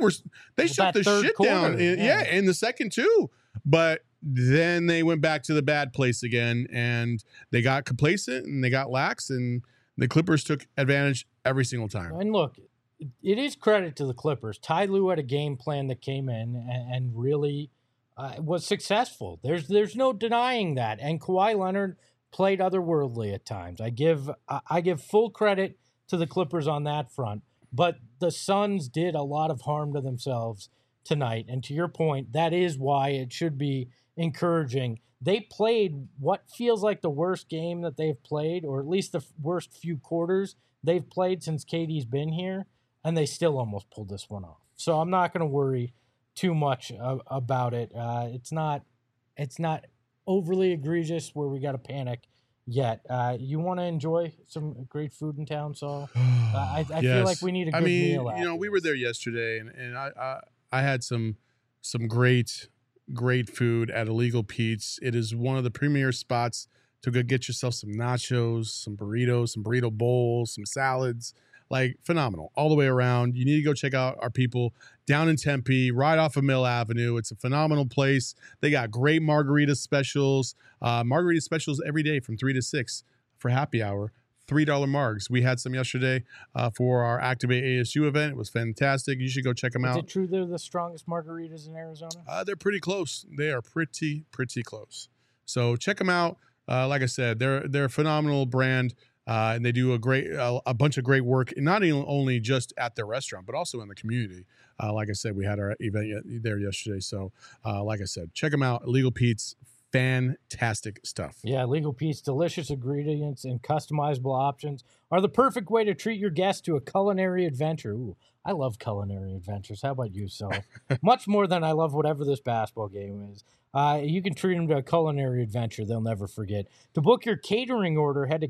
shut the shit down. In the second too. But then they went back to the bad place again, and they got complacent and they got lax, and the Clippers took advantage every single time. And look, it is credit to the Clippers. Ty Lue had a game plan that came in and really was successful. There's no denying that. And Kawhi Leonard played otherworldly at times. I give full credit to the Clippers on that front. But the Suns did a lot of harm to themselves tonight. And to your point, that is why it should be encouraging. They played what feels like the worst game that they've played, or at least the worst few quarters they've played since KD's been here, and they still almost pulled this one off. So I'm not going to worry too much about it. It's not overly egregious where we got to panic yet. You want to enjoy some great food in town, so I yes. feel like we need a good meal. We were there yesterday, and I had some great food at Illegal Pete's. It is one of the premier spots to go get yourself some nachos, some burritos, some burrito bowls, some salads. Like, phenomenal all the way around. You need to go check out our people down in Tempe, right off of Mill Avenue. It's a phenomenal place. They got great margarita specials. Margarita specials every day from 3 to 6 for happy hour. $3 margs. We had some yesterday for our Activate ASU event. It was fantastic. You should go check them out. Is it true they're the strongest margaritas in Arizona? They're pretty close. They are pretty close. So check them out. Like I said, they're a phenomenal brand. And they do a bunch of great work, not only just at their restaurant, but also in the community. Like I said, we had our event there yesterday. So, like I said, check them out. Illegal Pete's, fantastic stuff. Yeah, Legal Pete's delicious ingredients and customizable options are the perfect way to treat your guests to a culinary adventure. Ooh, I love culinary adventures. How about you, so? Much more than I love whatever this basketball game is. You can treat them to a culinary adventure they'll never forget. To book your catering order, head to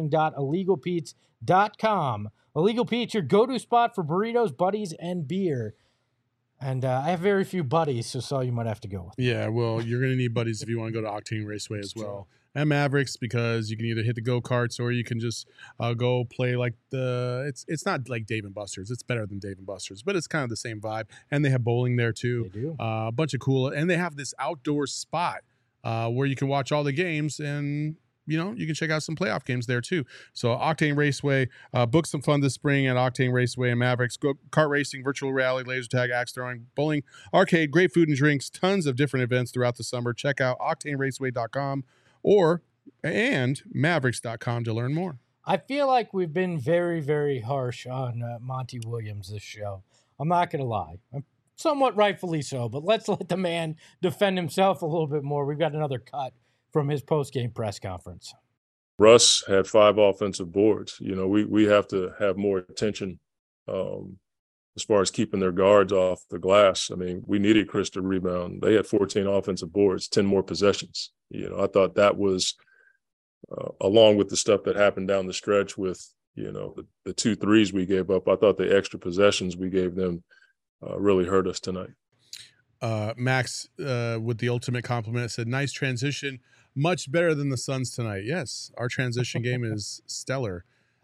catering.illegalpete's.com. Illegal Pete's, your go-to spot for burritos, buddies, and beer. And I have very few buddies, so you might have to go with. Yeah, well, you're going to need buddies if you want to go to Octane Raceway as well. And Mavericks, because you can either hit the go-karts or you can just go play like it's not like Dave & Buster's. It's better than Dave & Buster's, but it's kind of the same vibe. And they have bowling there too. They do. A bunch of cool. And they have this outdoor spot where you can watch all the games and, you can check out some playoff games there too. So Octane Raceway, book some fun this spring at Octane Raceway and Mavericks. Go kart racing, virtual reality, laser tag, axe throwing, bowling, arcade, great food and drinks, tons of different events throughout the summer. Check out octaneraceway.com and mavericks.com to learn more. I feel like we've been very, very harsh on Monty Williams this show. I'm not going to lie. Somewhat rightfully so, but let's let the man defend himself a little bit more. We've got another cut from his post-game press conference. Russ had 5 offensive boards. We have to have more attention as far as keeping their guards off the glass. I mean, we needed Chris to rebound. They had 14 offensive boards, 10 more possessions. I thought that was, along with the stuff that happened down the stretch with, the 2 threes we gave up, I thought the extra possessions we gave them really hurt us tonight. Max, with the ultimate compliment, said, nice transition. Much better than the Suns tonight. Yes, our transition game is stellar.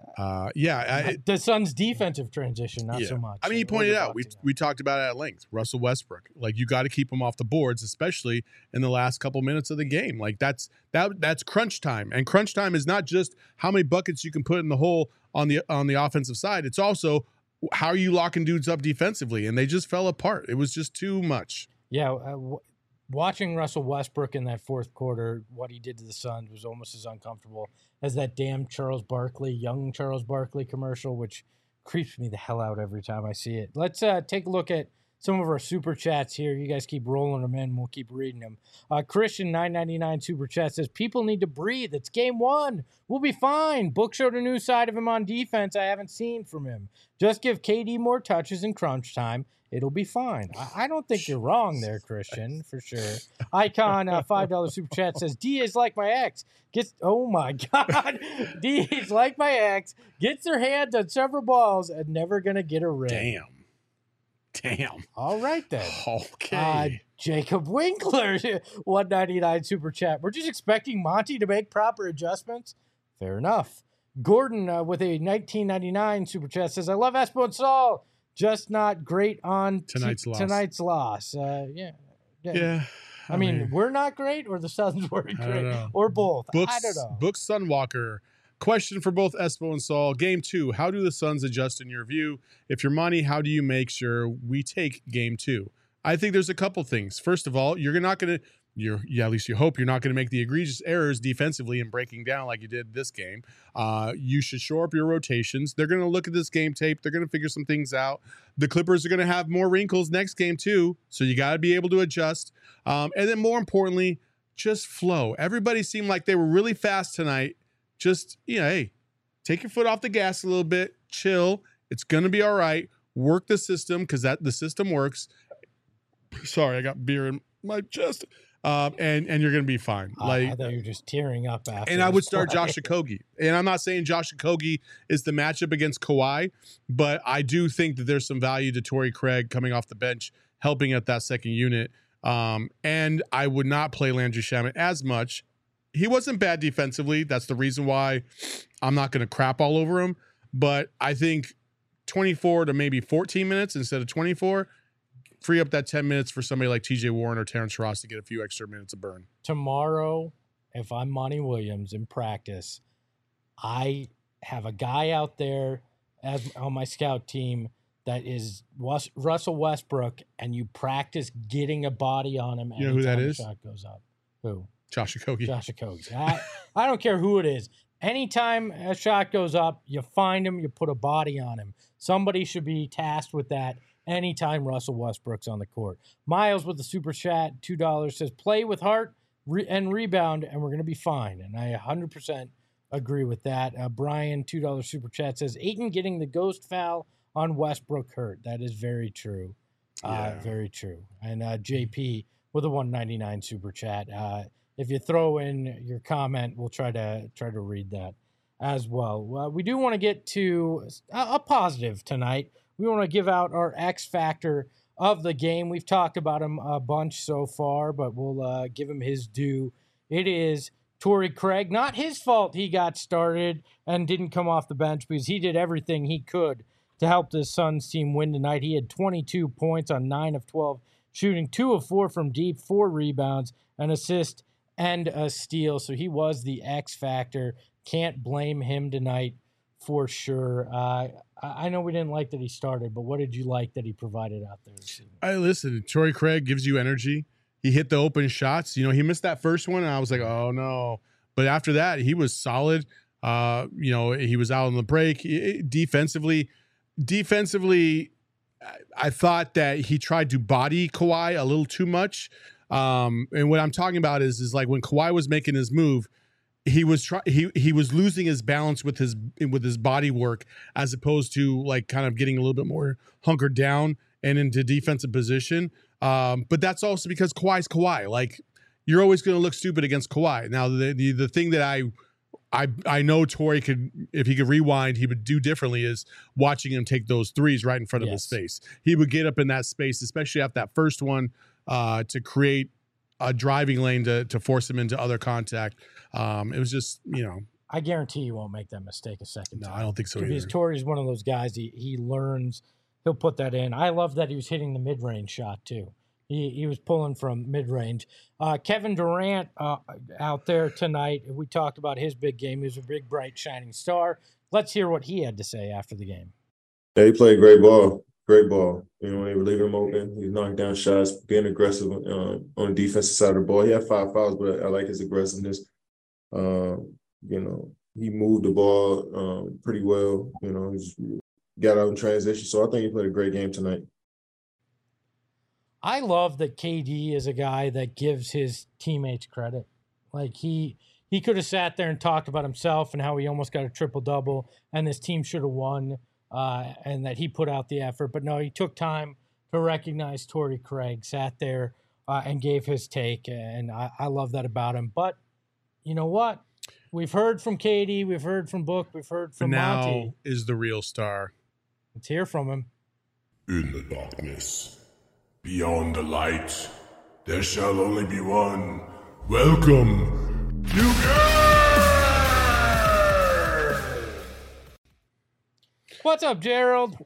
The Suns' defensive transition, not so much. I mean, you pointed out, we talked about it at length. Russell Westbrook, like, you got to keep him off the boards, especially in the last couple minutes of the game. Like, that's crunch time, and crunch time is not just how many buckets you can put in the hole on the offensive side. It's also how are you locking dudes up defensively, and they just fell apart. It was just too much. Yeah. Watching Russell Westbrook in that fourth quarter, what he did to the Suns was almost as uncomfortable as that damn young Charles Barkley commercial, which creeps me the hell out every time I see it. Let's take a look at some of our super chats here. You guys keep rolling them in. We'll keep reading them. Christian 999 super chat says, people need to breathe. It's game 1. We'll be fine. Book showed a new side of him on defense I haven't seen from him. Just give KD more touches in crunch time. It'll be fine. I don't think you're wrong there, Christian, for sure. Icon, $5 super chat says, D is like my ex. Oh my God. D is like my ex. Gets their hands on several balls and never going to get a ring. Damn. All right, then. Okay. Jacob Winkler, $1.99 super chat. We're just expecting Monty to make proper adjustments. Fair enough. Gordon with a $19.99 super chat says, I love Espo and Saul. Just not great on tonight's loss. Yeah. I mean, we're not great, or the Suns weren't great, or both. I don't know. Book Sunwalker. Question for both Espo and Saul. Game 2, how do the Suns adjust in your view? If you're Monty, how do you make sure we take game 2? I think there's a couple things. First of all, you're not going to, at least you hope you're not going to make the egregious errors defensively and breaking down like you did this game. You should shore up your rotations. They're going to look at this game tape. They're going to figure some things out. The Clippers are going to have more wrinkles next game too, so you got to be able to adjust. And then more importantly, just flow. Everybody seemed like they were really fast tonight. Just, hey, take your foot off the gas a little bit. Chill. It's going to be all right. Work the system because the system works. Sorry, I got beer in my chest. And you're going to be fine. I thought you were just tearing up after. And I would start Josh Okogie. And I'm not saying Josh Okogie is the matchup against Kawhi, but I do think that there's some value to Torrey Craig coming off the bench, helping at that second unit. And I would not play Landry Shamet as much. He wasn't bad defensively. That's the reason why I'm not going to crap all over him. But I think 24 to maybe 14 minutes instead of 24, free up that 10 minutes for somebody like TJ Warren or Terrence Ross to get a few extra minutes of burn. Tomorrow, if I'm Monty Williams in practice, I have a guy out there as on my scout team that is Russell Westbrook, and you practice getting a body on him. You know who that is? Shot goes up. Who? Josh Okogie. Josh Okogie. I don't care who it is. Anytime a shot goes up, you find him, you put a body on him. Somebody should be tasked with that anytime Russell Westbrook's on the court. Miles with the super chat, $2, says, play with heart and rebound, and we're going to be fine. And I 100% agree with that. Brian, $2 super chat, says, Ayton getting the ghost foul on Westbrook hurt. That is very true. Very true. And JP with a $1.99 super chat. If you throw in your comment, we'll try to read that as well. We do want to get to a positive tonight. We want to give out our X factor of the game. We've talked about him a bunch so far, but we'll give him his due. It is Torrey Craig. Not his fault he got started and didn't come off the bench, because he did everything he could to help the Suns team win tonight. He had 22 points on 9 of 12 shooting, 2 of 4 from deep, 4 rebounds, an assist, and a steal. So he was the X factor. Can't blame him tonight for sure. I know we didn't like that he started, but what did you like that he provided out there this evening? Listen, Torrey Craig gives you energy. He hit the open shots. He missed that first one, and I was like, oh no. But after that, he was solid. He was out on the break. Defensively, I thought that he tried to body Kawhi a little too much. And what I'm talking about is like when Kawhi was making his move, he was losing his balance with his body work, as opposed to like kind of getting a little bit more hunkered down and into defensive position. But that's also because Kawhi's Kawhi. Like, you're always going to look stupid against Kawhi. Now, the thing that I know Torrey could, if he could rewind, he would do differently, is watching him take those threes right in front of his face. He would get up in that space, especially after that first one, to create a driving lane to force him into other contact. It was just, I guarantee you won't make that mistake a second time. No, I don't think so either. Because Torrey's one of those guys, he learns, he'll put that in. I love that he was hitting the mid-range shot too. He was pulling from mid-range. Kevin Durant out there tonight, we talked about his big game. He was a big, bright, shining star. Let's hear what he had to say after the game. Yeah, he played great ball. Great ball. They were leaving him open. He's knocking down shots, being aggressive on the defensive side of the ball. He had 5 fouls, but I like his aggressiveness. He moved the ball pretty well. He got out in transition. So I think he played a great game tonight. I love that KD is a guy that gives his teammates credit. Like, he could have sat there and talked about himself and how he almost got a triple-double and this team should have won, and that he put out the effort. But no, he took time to recognize Torrey Craig, sat there and gave his take, and I love that about him. But you know what? We've heard from KD, we've heard from Book, we've heard from Monty. Now is the real star. Let's hear from him. In the darkness, beyond the light, there shall only be one. Welcome, you guys! What's up, Gerald?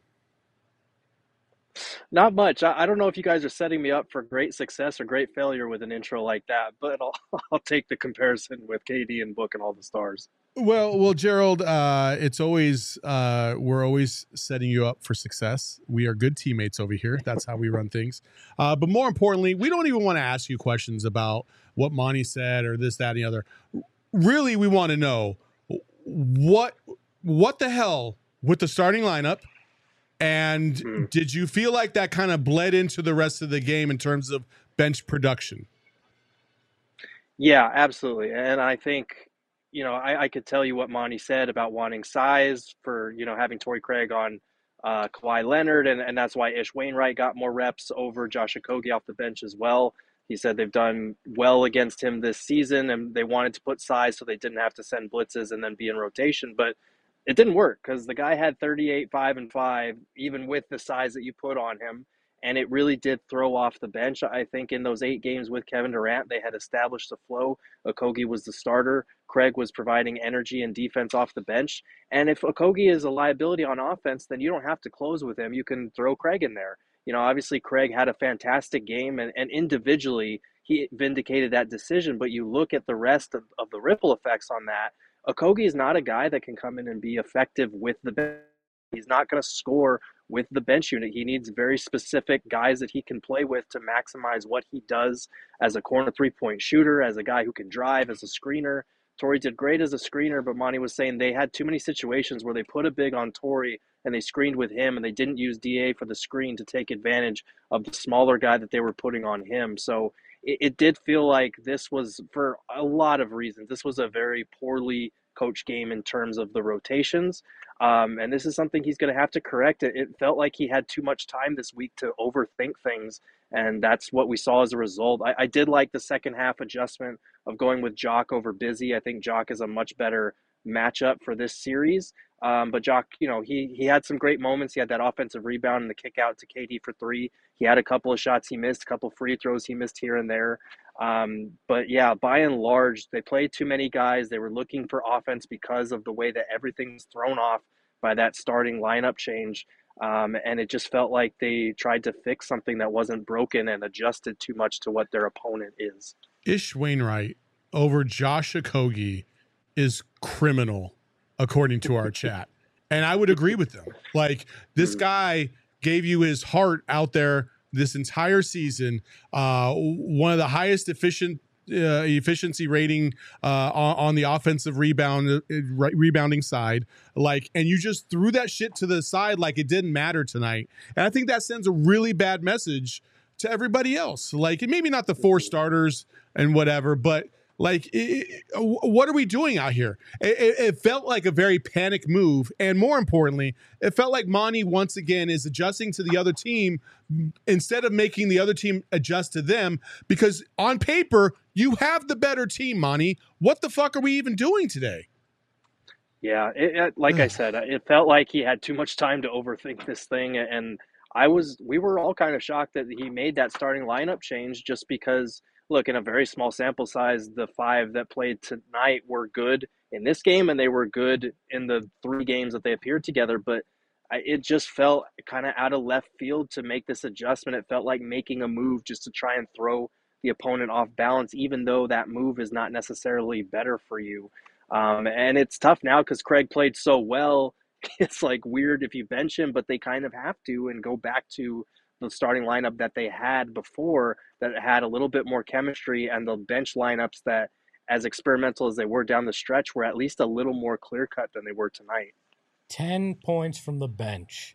Not much. I don't know if you guys are setting me up for great success or great failure with an intro like that, but I'll take the comparison with KD and Book and all the stars. Well, Gerald, it's always we're always setting you up for success. We are good teammates over here. That's how we run things. But more importantly, we don't even want to ask you questions about what Monty said or this, that, and the other. Really, we want to know what the hell with the starting lineup. And did you feel like that kind of bled into the rest of the game in terms of bench production? Yeah, absolutely. And I think, I could tell you what Monty said about wanting size for, having Torrey Craig on Kawhi Leonard. And that's why Ish Wainwright got more reps over Josh Okogie off the bench as well. He said they've done well against him this season, and they wanted to put size so they didn't have to send blitzes and then be in rotation. But it didn't work because the guy had 38, 5, and 5, even with the size that you put on him. And it really did throw off the bench. I think in those 8 games with Kevin Durant, they had established the flow. Okogie was the starter. Craig was providing energy and defense off the bench. And if Okogie is a liability on offense, then you don't have to close with him. You can throw Craig in there. Obviously Craig had a fantastic game, and individually he vindicated that decision. But you look at the rest of the ripple effects on that. Okogie is not a guy that can come in and be effective with the bench. He's not going to score with the bench unit. He needs very specific guys that he can play with to maximize what he does as a corner three-point shooter, as a guy who can drive, as a screener. Torrey did great as a screener, but Monty was saying they had too many situations where they put a big on Torrey and they screened with him, and they didn't use DA for the screen to take advantage of the smaller guy that they were putting on him. So it did feel like this was, for a lot of reasons, this was a very poorly coached game in terms of the rotations. And this is something he's going to have to correct. It felt like he had too much time this week to overthink things, and that's what we saw as a result. I did like the second half adjustment of going with Jock over Busy. I think Jock is a much better matchup for this series. But Jock, he had some great moments. He had that offensive rebound and the kick out to KD for three. He had a couple of shots he missed, a couple of free throws he missed here and there. But yeah, by and large, they played too many guys. They were looking for offense because of the way that everything's thrown off by that starting lineup change. And it just felt like they tried to fix something that wasn't broken and adjusted too much to what their opponent is. Ish Wainwright over Josh Okogie is criminal, according to our chat. And I would agree with them. Like, this guy gave you his heart out there this entire season. One of the highest efficiency rating on the offensive rebounding side. Like, and you just threw that shit to the side like it didn't matter tonight. And I think that sends a really bad message to everybody else. Like, maybe not the four starters and whatever, but like, what are we doing out here? It felt like a very panic move. And more importantly, it felt like Monty once again is adjusting to the other team instead of making the other team adjust to them, because on paper, you have the better team, Monty. What the fuck are we even doing today? Yeah, like I said, it felt like he had too much time to overthink this thing. And we were all kind of shocked that he made that starting lineup change, just because, look, in a very small sample size, the five that played tonight were good in this game, and they were good in the 3 games that they appeared together. But it just felt kind of out of left field to make this adjustment. It felt like making a move just to try and throw the opponent off balance, even though that move is not necessarily better for you. And it's tough now because Craig played so well. It's like weird if you bench him, but they kind of have to and go back to the starting lineup that they had before, that had a little bit more chemistry, and the bench lineups that, as experimental as they were down the stretch, were at least a little more clear-cut than they were tonight. 10 points from the bench.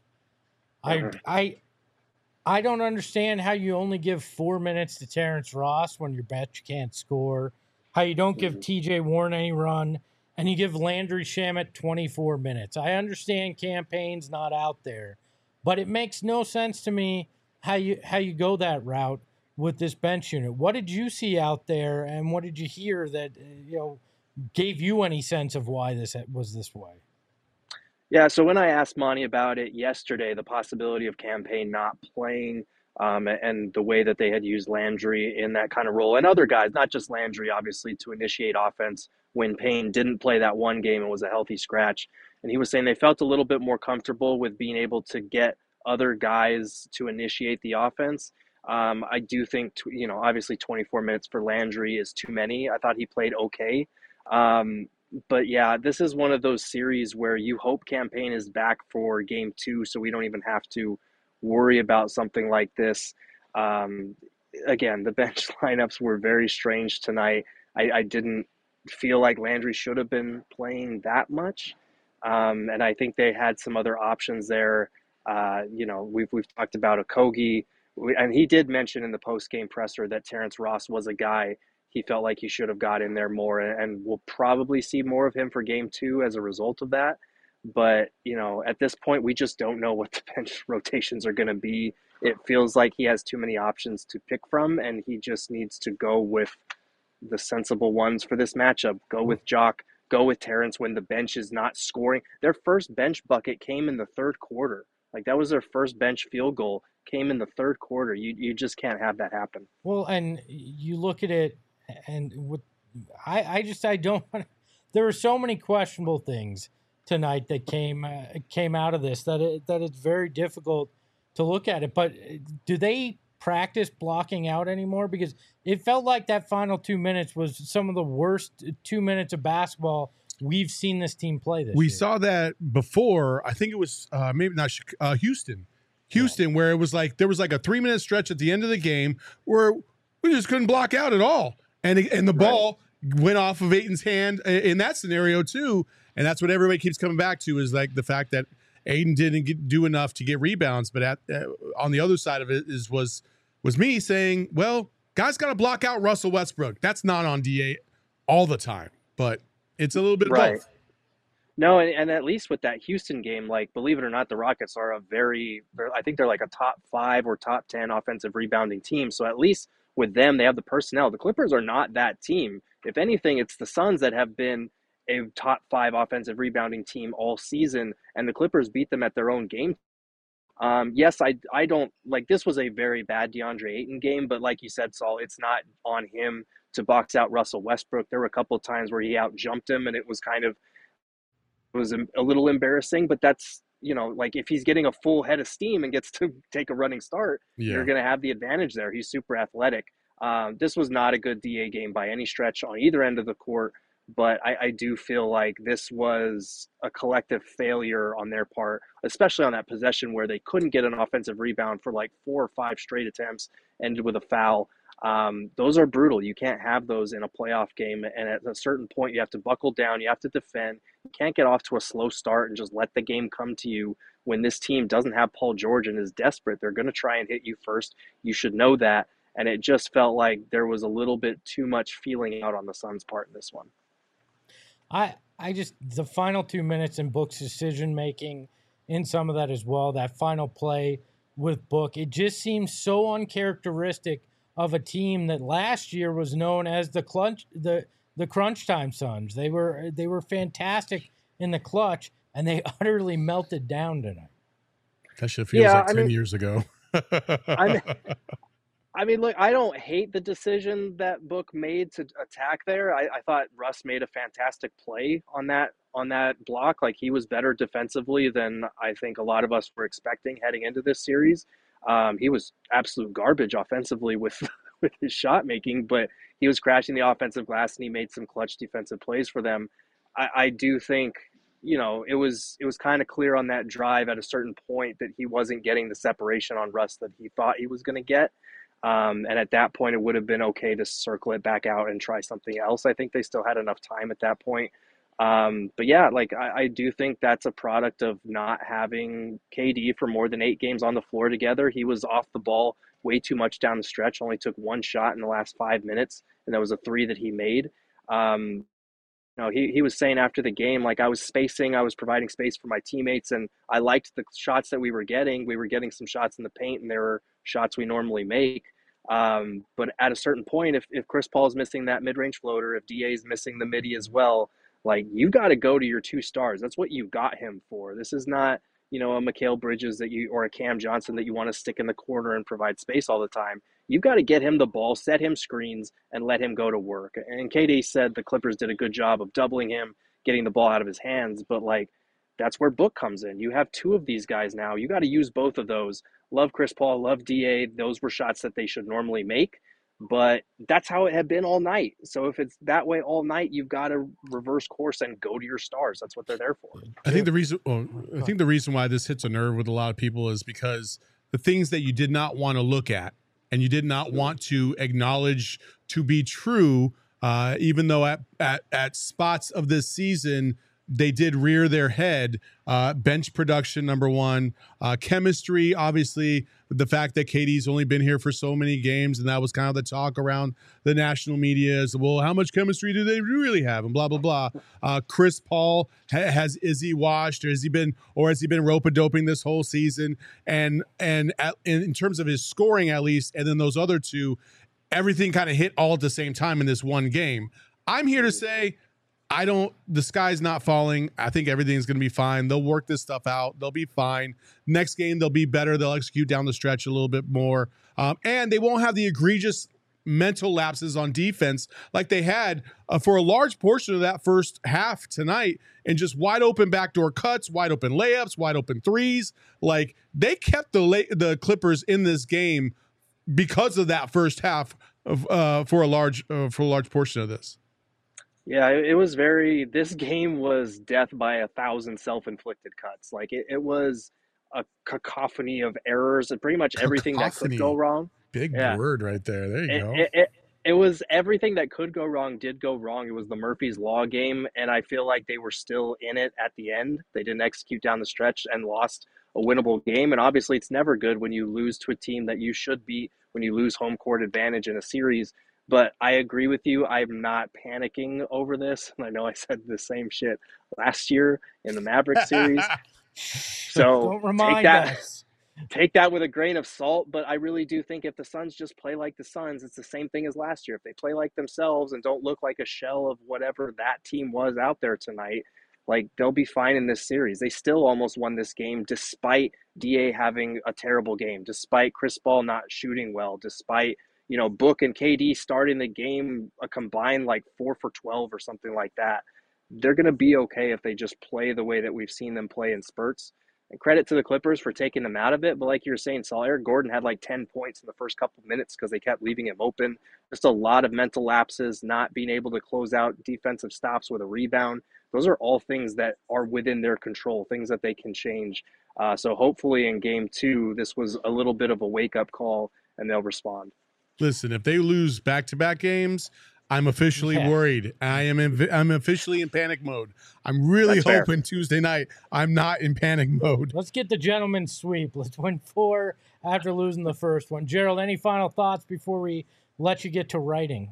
I don't understand how you only give 4 minutes to Terrence Ross when your bench can't score, how you don't give TJ Warren any run, and you give Landry Shamet 24 minutes. I understand campaign's not out there, but it makes no sense to me how you go that route with this bench unit. What did you see out there, and what did you hear that gave you any sense of why this was this way? Yeah, so when I asked Monty about it yesterday, the possibility of campaign not playing, and the way that they had used Landry in that kind of role, and other guys, not just Landry, obviously, to initiate offense when Payne didn't play that one game and was a healthy scratch. And he was saying they felt a little bit more comfortable with being able to get other guys to initiate the offense. I do think, obviously 24 minutes for Landry is too many. I thought he played okay. But yeah, this is one of those series where you hope campaign is back for game 2, so we don't even have to worry about something like this. Again, the bench lineups were very strange tonight. I didn't feel like Landry should have been playing that much. And I think they had some other options there. We've talked about Okogie, and he did mention in the post-game presser that Terrence Ross was a guy he felt like he should have got in there more, and we'll probably see more of him for game 2 as a result of that. But, at this point, we just don't know what the bench rotations are going to be. It feels like he has too many options to pick from, and he just needs to go with the sensible ones for this matchup. Go with Jock, go with Terrence when the bench is not scoring. Their first bench bucket came in the third quarter. Like, that was their first bench field goal, came in the third quarter. You just can't have that happen. Well, and you look at it, and I don't. There were so many questionable things tonight that came out of this that it's very difficult to look at it. But do they practice blocking out anymore? Because it felt like that final 2 minutes was some of the worst 2 minutes of basketball we've seen this team play this We year. saw that before. I think it was maybe not Houston. Houston, where it was like there was like a 3-minute stretch at the end of the game where we just couldn't block out at all. And the ball went off of Ayton's hand in that scenario too. And that's what everybody keeps coming back to, is like the fact that Ayton didn't do enough to get rebounds. But on the other side of it was me saying, well, guys got to block out Russell Westbrook. That's not on DA all the time, but it's a little bit of both. No, and at least with that Houston game, like, believe it or not, the Rockets are I think they're like a top 5 or top 10 offensive rebounding team. So at least with them, they have the personnel. The Clippers are not that team. If anything, it's the Suns that have been a top 5 offensive rebounding team all season, and the Clippers beat them at their own game. Yes, I don't like, this was a very bad DeAndre Ayton game, but like you said, Saul, it's not on him to box out Russell Westbrook. There were a couple of times where he out jumped him, and it was a little embarrassing, but that's, like, if he's getting a full head of steam and gets to take a running start, you're going to have the advantage there. He's super athletic. This was not a good DA game by any stretch on either end of the court, but I do feel like this was a collective failure on their part, especially on that possession where they couldn't get an offensive rebound for like 4 or 5 straight attempts, ended with a foul. Those are brutal. You can't have those in a playoff game. And at a certain point, you have to buckle down. You have to defend. You can't get off to a slow start and just let the game come to you when this team doesn't have Paul George and is desperate. They're going to try and hit you first. You should know that. And it just felt like there was a little bit too much feeling out on the Suns' part in this one. The final 2 minutes in Book's decision-making in some of that as well, that final play with Book, it just seems so uncharacteristic of a team that last year was known as the crunch time Suns. They were fantastic in the clutch, and they utterly melted down tonight. That shit feels like 10 years ago. Look, I don't hate the decision that Book made to attack there. I thought Russ made a fantastic play on that block. Like, he was better defensively than I think a lot of us were expecting heading into this series. He was absolute garbage offensively with his shot making, but he was crashing the offensive glass and he made some clutch defensive plays for them. I do think, it was kind of clear on that drive at a certain point that he wasn't getting the separation on Russ that he thought he was going to get. And at that point, it would have been okay to circle it back out and try something else. I think they still had enough time at that point. But yeah, like, I do think that's a product of not having KD for more than 8 games on the floor together. He was off the ball way too much down the stretch, only took 1 shot in the last 5 minutes, and that was a 3 that he made. He was saying after the game, like, I was providing space for my teammates, and I liked the shots that we were getting. We were getting some shots in the paint, and there were shots we normally make. But at a certain point, if Chris Paul is missing that mid-range floater, if DA is missing the midi as well, like, you got to go to your 2 stars. That's what you got him for. This is not, a Mikal Bridges or a Cam Johnson that you want to stick in the corner and provide space all the time. You've got to get him the ball, set him screens, and let him go to work. And KD said the Clippers did a good job of doubling him, getting the ball out of his hands. But, like, that's where Book comes in. You have 2 of these guys now. You got to use both of those. Love Chris Paul, love DA. Those were shots that they should normally make. But that's how it had been all night. So if it's that way all night, you've got to reverse course and go to your stars. That's what they're there for. I think the reason why this hits a nerve with a lot of people is because the things that you did not want to look at and you did not want to acknowledge to be true, even though at spots of this season they did rear their head. Bench production, number one. Chemistry, obviously, the fact that KD's only been here for so many games, and that was kind of the talk around the national media is, well, how much chemistry do they really have, and blah, blah, blah. Chris Paul, is he washed, or has he been rope-a-doping this whole season? And in terms of his scoring, at least, and then those other 2, everything kind of hit all at the same time in this one game. I'm here to say, the sky's not falling. I think everything's going to be fine. They'll work this stuff out. They'll be fine. Next game, they'll be better. They'll execute down the stretch a little bit more. And they won't have the egregious mental lapses on defense like they had for a large portion of that first half tonight, and just wide open backdoor cuts, wide open layups, wide open threes. Like, they kept the Clippers in this game because of that first half for a large portion of this. Yeah, it was this game was death by 1,000 self-inflicted cuts. Like it was a cacophony of errors and pretty much everything that could go Cacophony. wrong. Big Yeah. word right there. There you go. It was everything that could go wrong did go wrong. It was the Murphy's Law game, and I feel like they were still in it at the end. They didn't execute down the stretch and lost a winnable game. And obviously, it's never good when you lose to a team that you should beat, when you lose home court advantage in a series. But I agree with you. I'm not panicking over this. And I know I said the same shit last year in the Mavericks series. So don't remind us. Take that with a grain of salt, but I really do think if the Suns just play like the Suns, it's the same thing as last year. If they play like themselves and don't look like a shell of whatever that team was out there tonight, like they'll be fine in this series. They still almost won this game despite DA having a terrible game, despite Chris Paul not shooting well, despite, Book and KD starting the game a combined like 4 for 12 or something like that. They're going to be okay if they just play the way that we've seen them play in spurts. And credit to the Clippers for taking them out of it. But like you were saying, Saul, Eric Gordon had like 10 points in the first couple of minutes because they kept leaving him open. Just a lot of mental lapses, not being able to close out defensive stops with a rebound. Those are all things that are within their control, things that they can change. So hopefully in game 2, this was a little bit of a wake-up call and they'll respond. Listen, if they lose back-to-back games, I'm officially worried. I'm officially in panic mode. I'm really hoping Tuesday night I'm not in panic mode. Let's get the gentleman's sweep. Let's win 4 after losing the first one. Gerald, any final thoughts before we let you get to writing?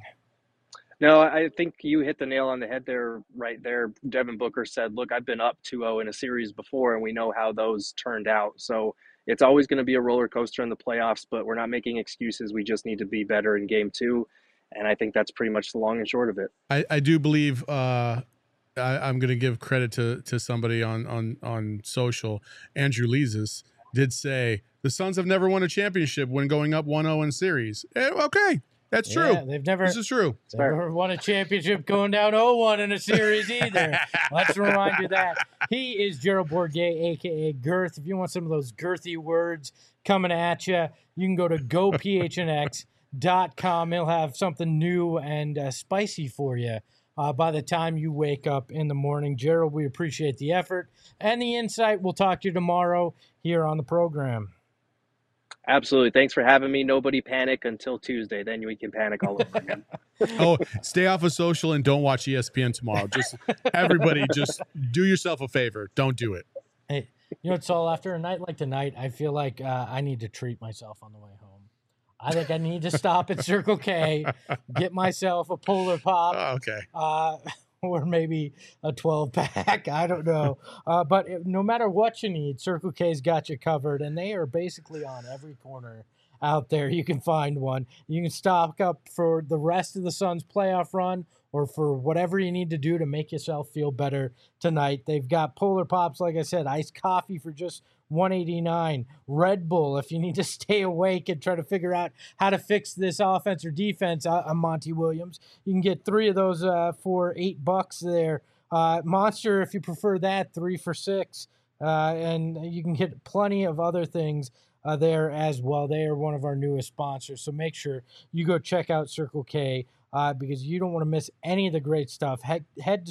No, I think you hit the nail on the head there, right there. Devin Booker said, look, I've been up 2-0 in a series before, and we know how those turned out. So it's always going to be a roller coaster in the playoffs, but we're not making excuses. We just need to be better in game 2. And I think that's pretty much the long and short of it. I do believe I'm going to give credit to somebody on social. Andrew Leesus did say the Suns have never won a championship when going up 1-0 in series. Okay, that's true. This is true. They've never won a championship going down 0-1 in a series either. Let's remind you that. He is Gerald Bourguet, a.k.a. Girth. If you want some of those girthy words coming at you, you can go to GoPHNX.com. He'll have something new and spicy for you by the time you wake up in the morning. Gerald, we appreciate the effort and the insight. We'll talk to you tomorrow here on the program. Absolutely. Thanks for having me. Nobody panic until Tuesday. Then we can panic all over again. Oh, stay off of social and don't watch ESPN tomorrow. Just everybody, just do yourself a favor. Don't do it. Hey, it's all after a night like tonight, I feel like I need to treat myself on the way home. I think I need to stop at Circle K, get myself a Polar Pop. Oh, okay. Or maybe a 12-pack. I don't know. But no matter what you need, Circle K's got you covered, and they are basically on every corner out there. You can find one. You can stock up for the rest of the Suns playoff run or for whatever you need to do to make yourself feel better tonight. They've got Polar Pops, like I said, iced coffee for just $1.89. Red Bull, if you need to stay awake and try to figure out how to fix this offense or defense. I'm Monty Williams. You can get 3 of those for $8 there. Monster, if you prefer that, 3 for $6. And you can get plenty of other things there as well. They are one of our newest sponsors. So make sure you go check out Circle K because you don't want to miss any of the great stuff. Head to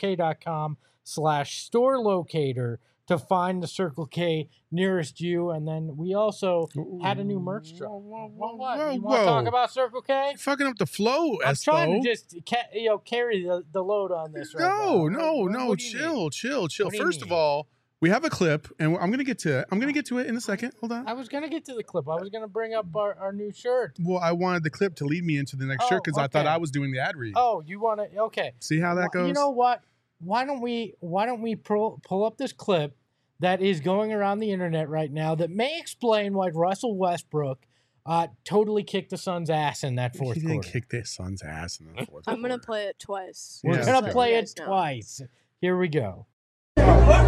CircleK.com/store locator to find the Circle K nearest you. And then we also had a new merch drop. What? You want to talk about Circle K? You're fucking up the flow, I'm Espo. trying to just carry the load on this right now. No. Chill. First of all, we have a clip, and I'm gonna get to it in a second. Hold on. I was gonna get to the clip. I was gonna bring up our new shirt. Well, I wanted the clip to lead me into the next shirt because I thought I was doing the ad read. Oh, you want to? Okay. See how that goes? You know what? Why don't we pull up this clip that is going around the internet right now that may explain why Russell Westbrook totally kicked the Suns' ass in that fourth quarter. He didn't kick the Suns' ass in the fourth quarter. I'm going to play it twice. We're going to play it twice. Here we go. Watch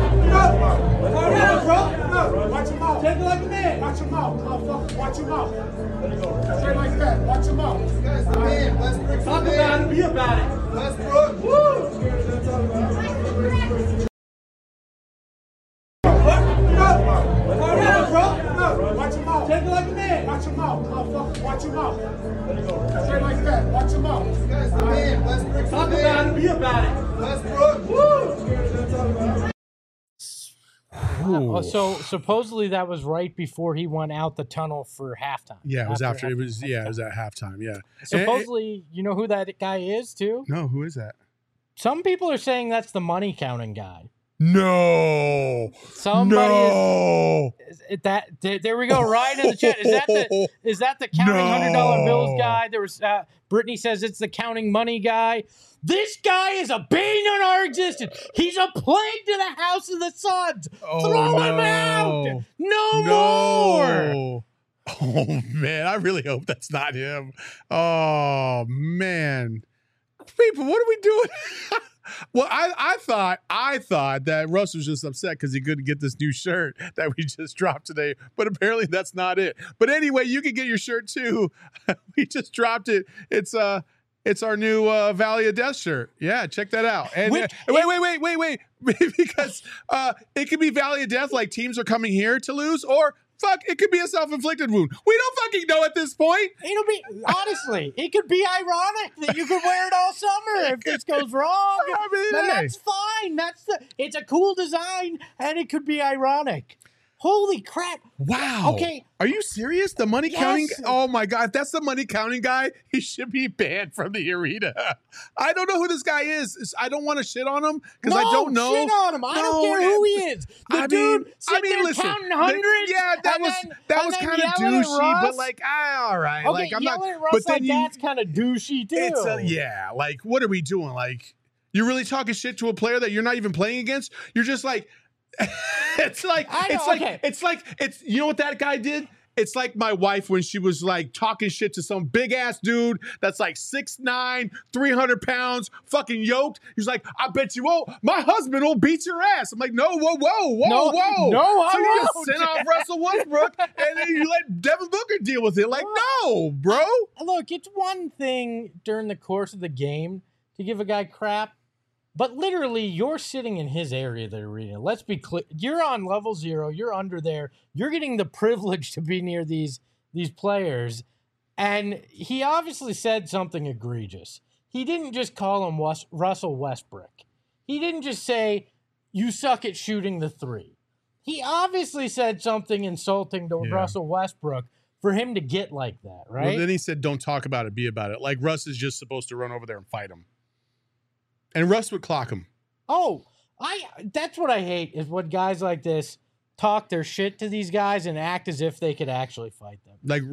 your mouth. Take it like a man. Watch your mouth, motherfucker. Watch your mouth. Say it like that. Watch your mouth. This guy's the man. Westbrook. Talk about it. Be about it. Westbrook. Woo. Watch your mouth. Take it like a man. Watch your mouth, motherfucker. Watch your mouth. Let it go. Straight like that. Watch your mouth. This guy's the man. Westbrook. Talk about it. Be about it. Westbrook. Woo! So supposedly that was right before he went out the tunnel for halftime. Yeah, it was after. It was at halftime. Yeah. Supposedly, you know who that guy is too? No, who is that? Some people are saying that's the money counting guy. No. Somebody there we go. Right in the chat. Is that the counting $100 bills guy? There was Brittany says it's the counting money guy. This guy is a bane on our existence. He's a plague to the house of the Suns. Throw him out. No more. Oh man, I really hope that's not him. Oh man. People, what are we doing? Well, I thought that Russ was just upset because he couldn't get this new shirt that we just dropped today, but apparently that's not it. But anyway, you can get your shirt too. We just dropped it. It's our new Valley of Death shirt. Yeah, check that out. And wait, because it could be Valley of Death, like teams are coming here to lose, or fuck, it could be a self-inflicted wound. We don't fucking know at this point. It'll be, honestly, it could be ironic that you could wear it all summer if this goes wrong. I mean, then that's fine. It's a cool design, and it could be ironic. Holy crap. Wow. Okay. Are you serious? The money counting? Oh my God. If that's the money counting guy, he should be banned from the arena. I don't know who this guy is. I don't want to shit on him because I don't know. Shit on him. I don't care who he is. The dude sitting there counting hundreds. Yeah, that was kind of douchey, but like, all right. Okay, like, I'm yelling not. at Russ But then that's kind of douchey too. It's like, what are we doing? Like, you're really talking shit to a player that you're not even playing against? You're just like, it's you know what that guy did? It's like my wife when she was like talking shit to some big ass dude that's like 6'9", 300 pounds, fucking yoked. He's like, I bet you won't. My husband will beat your ass. I'm like, no, whoa. No, So you just send off Russell Westbrook and then you let Devin Booker deal with it. Like, no, bro. Look, it's one thing during the course of the game to give a guy crap. But literally, you're sitting in his area of the arena. Let's be clear. You're on level 0. You're under there. You're getting the privilege to be near these players. And he obviously said something egregious. He didn't just call him Russell Westbrook. He didn't just say, you suck at shooting the three. He obviously said something insulting to Russell Westbrook for him to get like that, right? Well, then he said, don't talk about it, be about it. Like Russ is just supposed to run over there and fight him. And Russ would clock him. Oh, that's what I hate is when guys like this talk their shit to these guys and act as if they could actually fight them. Like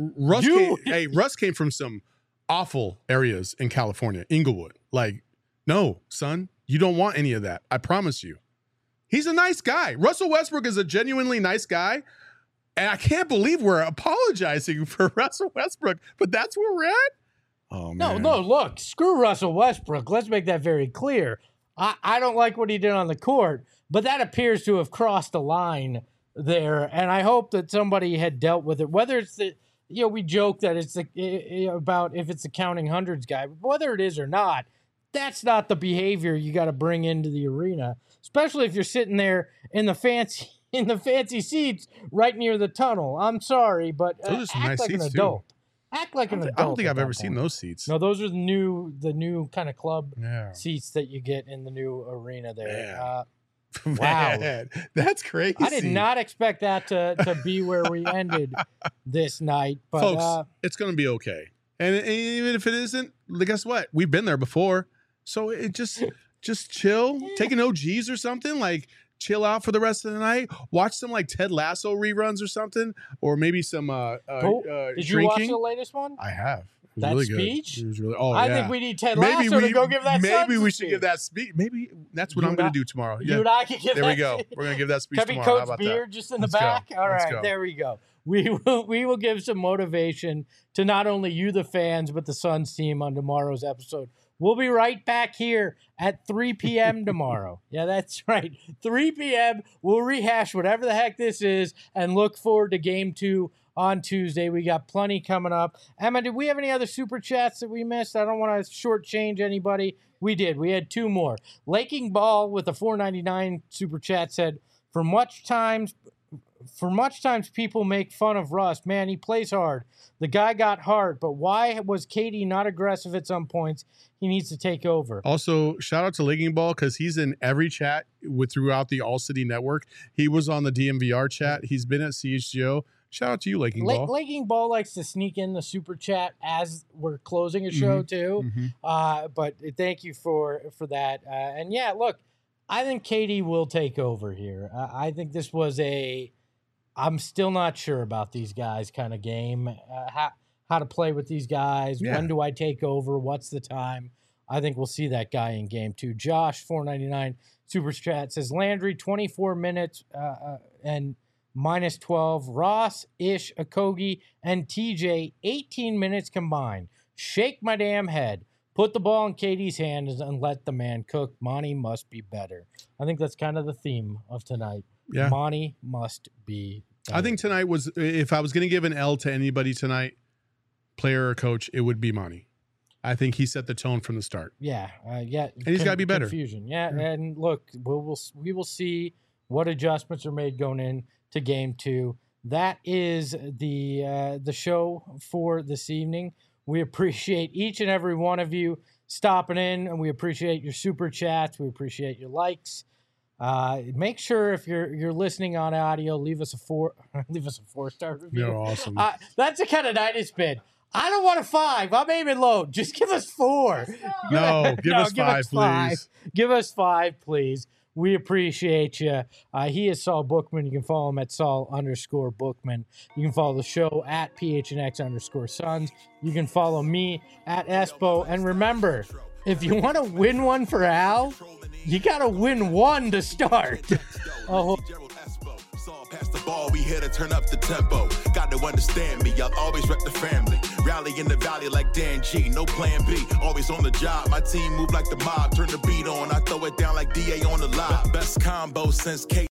Russ came from some awful areas in California, Inglewood. Like, no, son, you don't want any of that. I promise you. He's a nice guy. Russell Westbrook is a genuinely nice guy. And I can't believe we're apologizing for Russell Westbrook, but that's where we're at. Oh, man. No, look, screw Russell Westbrook. Let's make that very clear. I don't like what he did on the court, but that appears to have crossed the line there, and I hope that somebody had dealt with it. Whether it's we joke that it's about if it's the counting hundreds guy, but whether it is or not, that's not the behavior you got to bring into the arena, especially if you're sitting there in the fancy seats right near the tunnel. I'm sorry, but those are some nice like seats an adult. Too. Act like an adult. I don't think I've ever seen those seats. No, those are the new kind of club seats that you get in the new arena there. Yeah. Wow, that's crazy. I did not expect that to be where we ended this night. But folks, it's going to be okay. And even if it isn't, guess what? We've been there before. So it just chill, take an OGs or something, like chill out for the rest of the night. Watch some like Ted Lasso reruns or something, or maybe some Did you watch the latest one? I have. It was that really speech? Good. It was really. I think we need Ted Lasso to go give that. Maybe we should give that speech. Maybe that's what I'm going to do tomorrow. You and I can give. There we go. We're going to give that speech tomorrow. Coach How about Beard that? just in the back. All right, there we go. We will give some motivation to not only you, the fans, but the Suns team on tomorrow's episode. We'll be right back here at 3 p.m. tomorrow. Yeah, that's right. 3 p.m. We'll rehash whatever the heck this is and look forward to Game 2 on Tuesday. We got plenty coming up. Emma, did we have any other super chats that we missed? I don't want to shortchange anybody. We did. We had 2 more. Laking Ball with a $4.99 super chat said, for much times for much times people make fun of Russ. Man, he plays hard. The guy got hard, but why was KD not aggressive at some points? He needs to take over. Also, shout out to Legging Ball because he's in every chat throughout the All City Network. He was on the DMVR chat. He's been at CHGO. Shout out to you, Legging Ball. Legging Ball likes to sneak in the super chat as we're closing a show too. But thank you for that. And yeah, look, I think KD will take over here. I think this was I'm still not sure about these guys kind of game. How to play with these guys. Yeah. When do I take over? What's the time? I think we'll see that guy in game 2. Josh, $4.99 super chat says Landry 24 minutes and minus 12. Ross, Ish, Okogie, and TJ 18 minutes combined. Shake my damn head. Put the ball in KD's hands and let the man cook. Monty must be better. I think that's kind of the theme of tonight. Yeah. Monty must be better. I think tonight was, if I was going to give an L to anybody tonight, player or coach, it would be Monty. I think he set the tone from the start. Yeah. And he's got to be better. Confusion. Yeah. And look, we will see what adjustments are made going into game 2. That is the show for this evening. We appreciate each and every one of you stopping in, and we appreciate your super chats. We appreciate your likes. Make sure if you're listening on audio, leave us a 4-star review. You're awesome. That's the kind of night it's been. I don't want a 5. I'm aiming low. Just give us 4. No, give us 5, please. Give us 5, please. We appreciate you. He is Saul Bookman. You can follow him at Saul_Bookman. You can follow the show at PHNX_Suns. You can follow me at Espo. And remember, if you want to win one for Al, you got to win one to start. Pass the ball, we here to turn up the tempo. Got to understand me, I'll always rep the family. Rally in the valley like Dan G, no plan B. Always on the job, my team move like the mob. Turn the beat on, I throw it down like DA on the live. Best combo since K.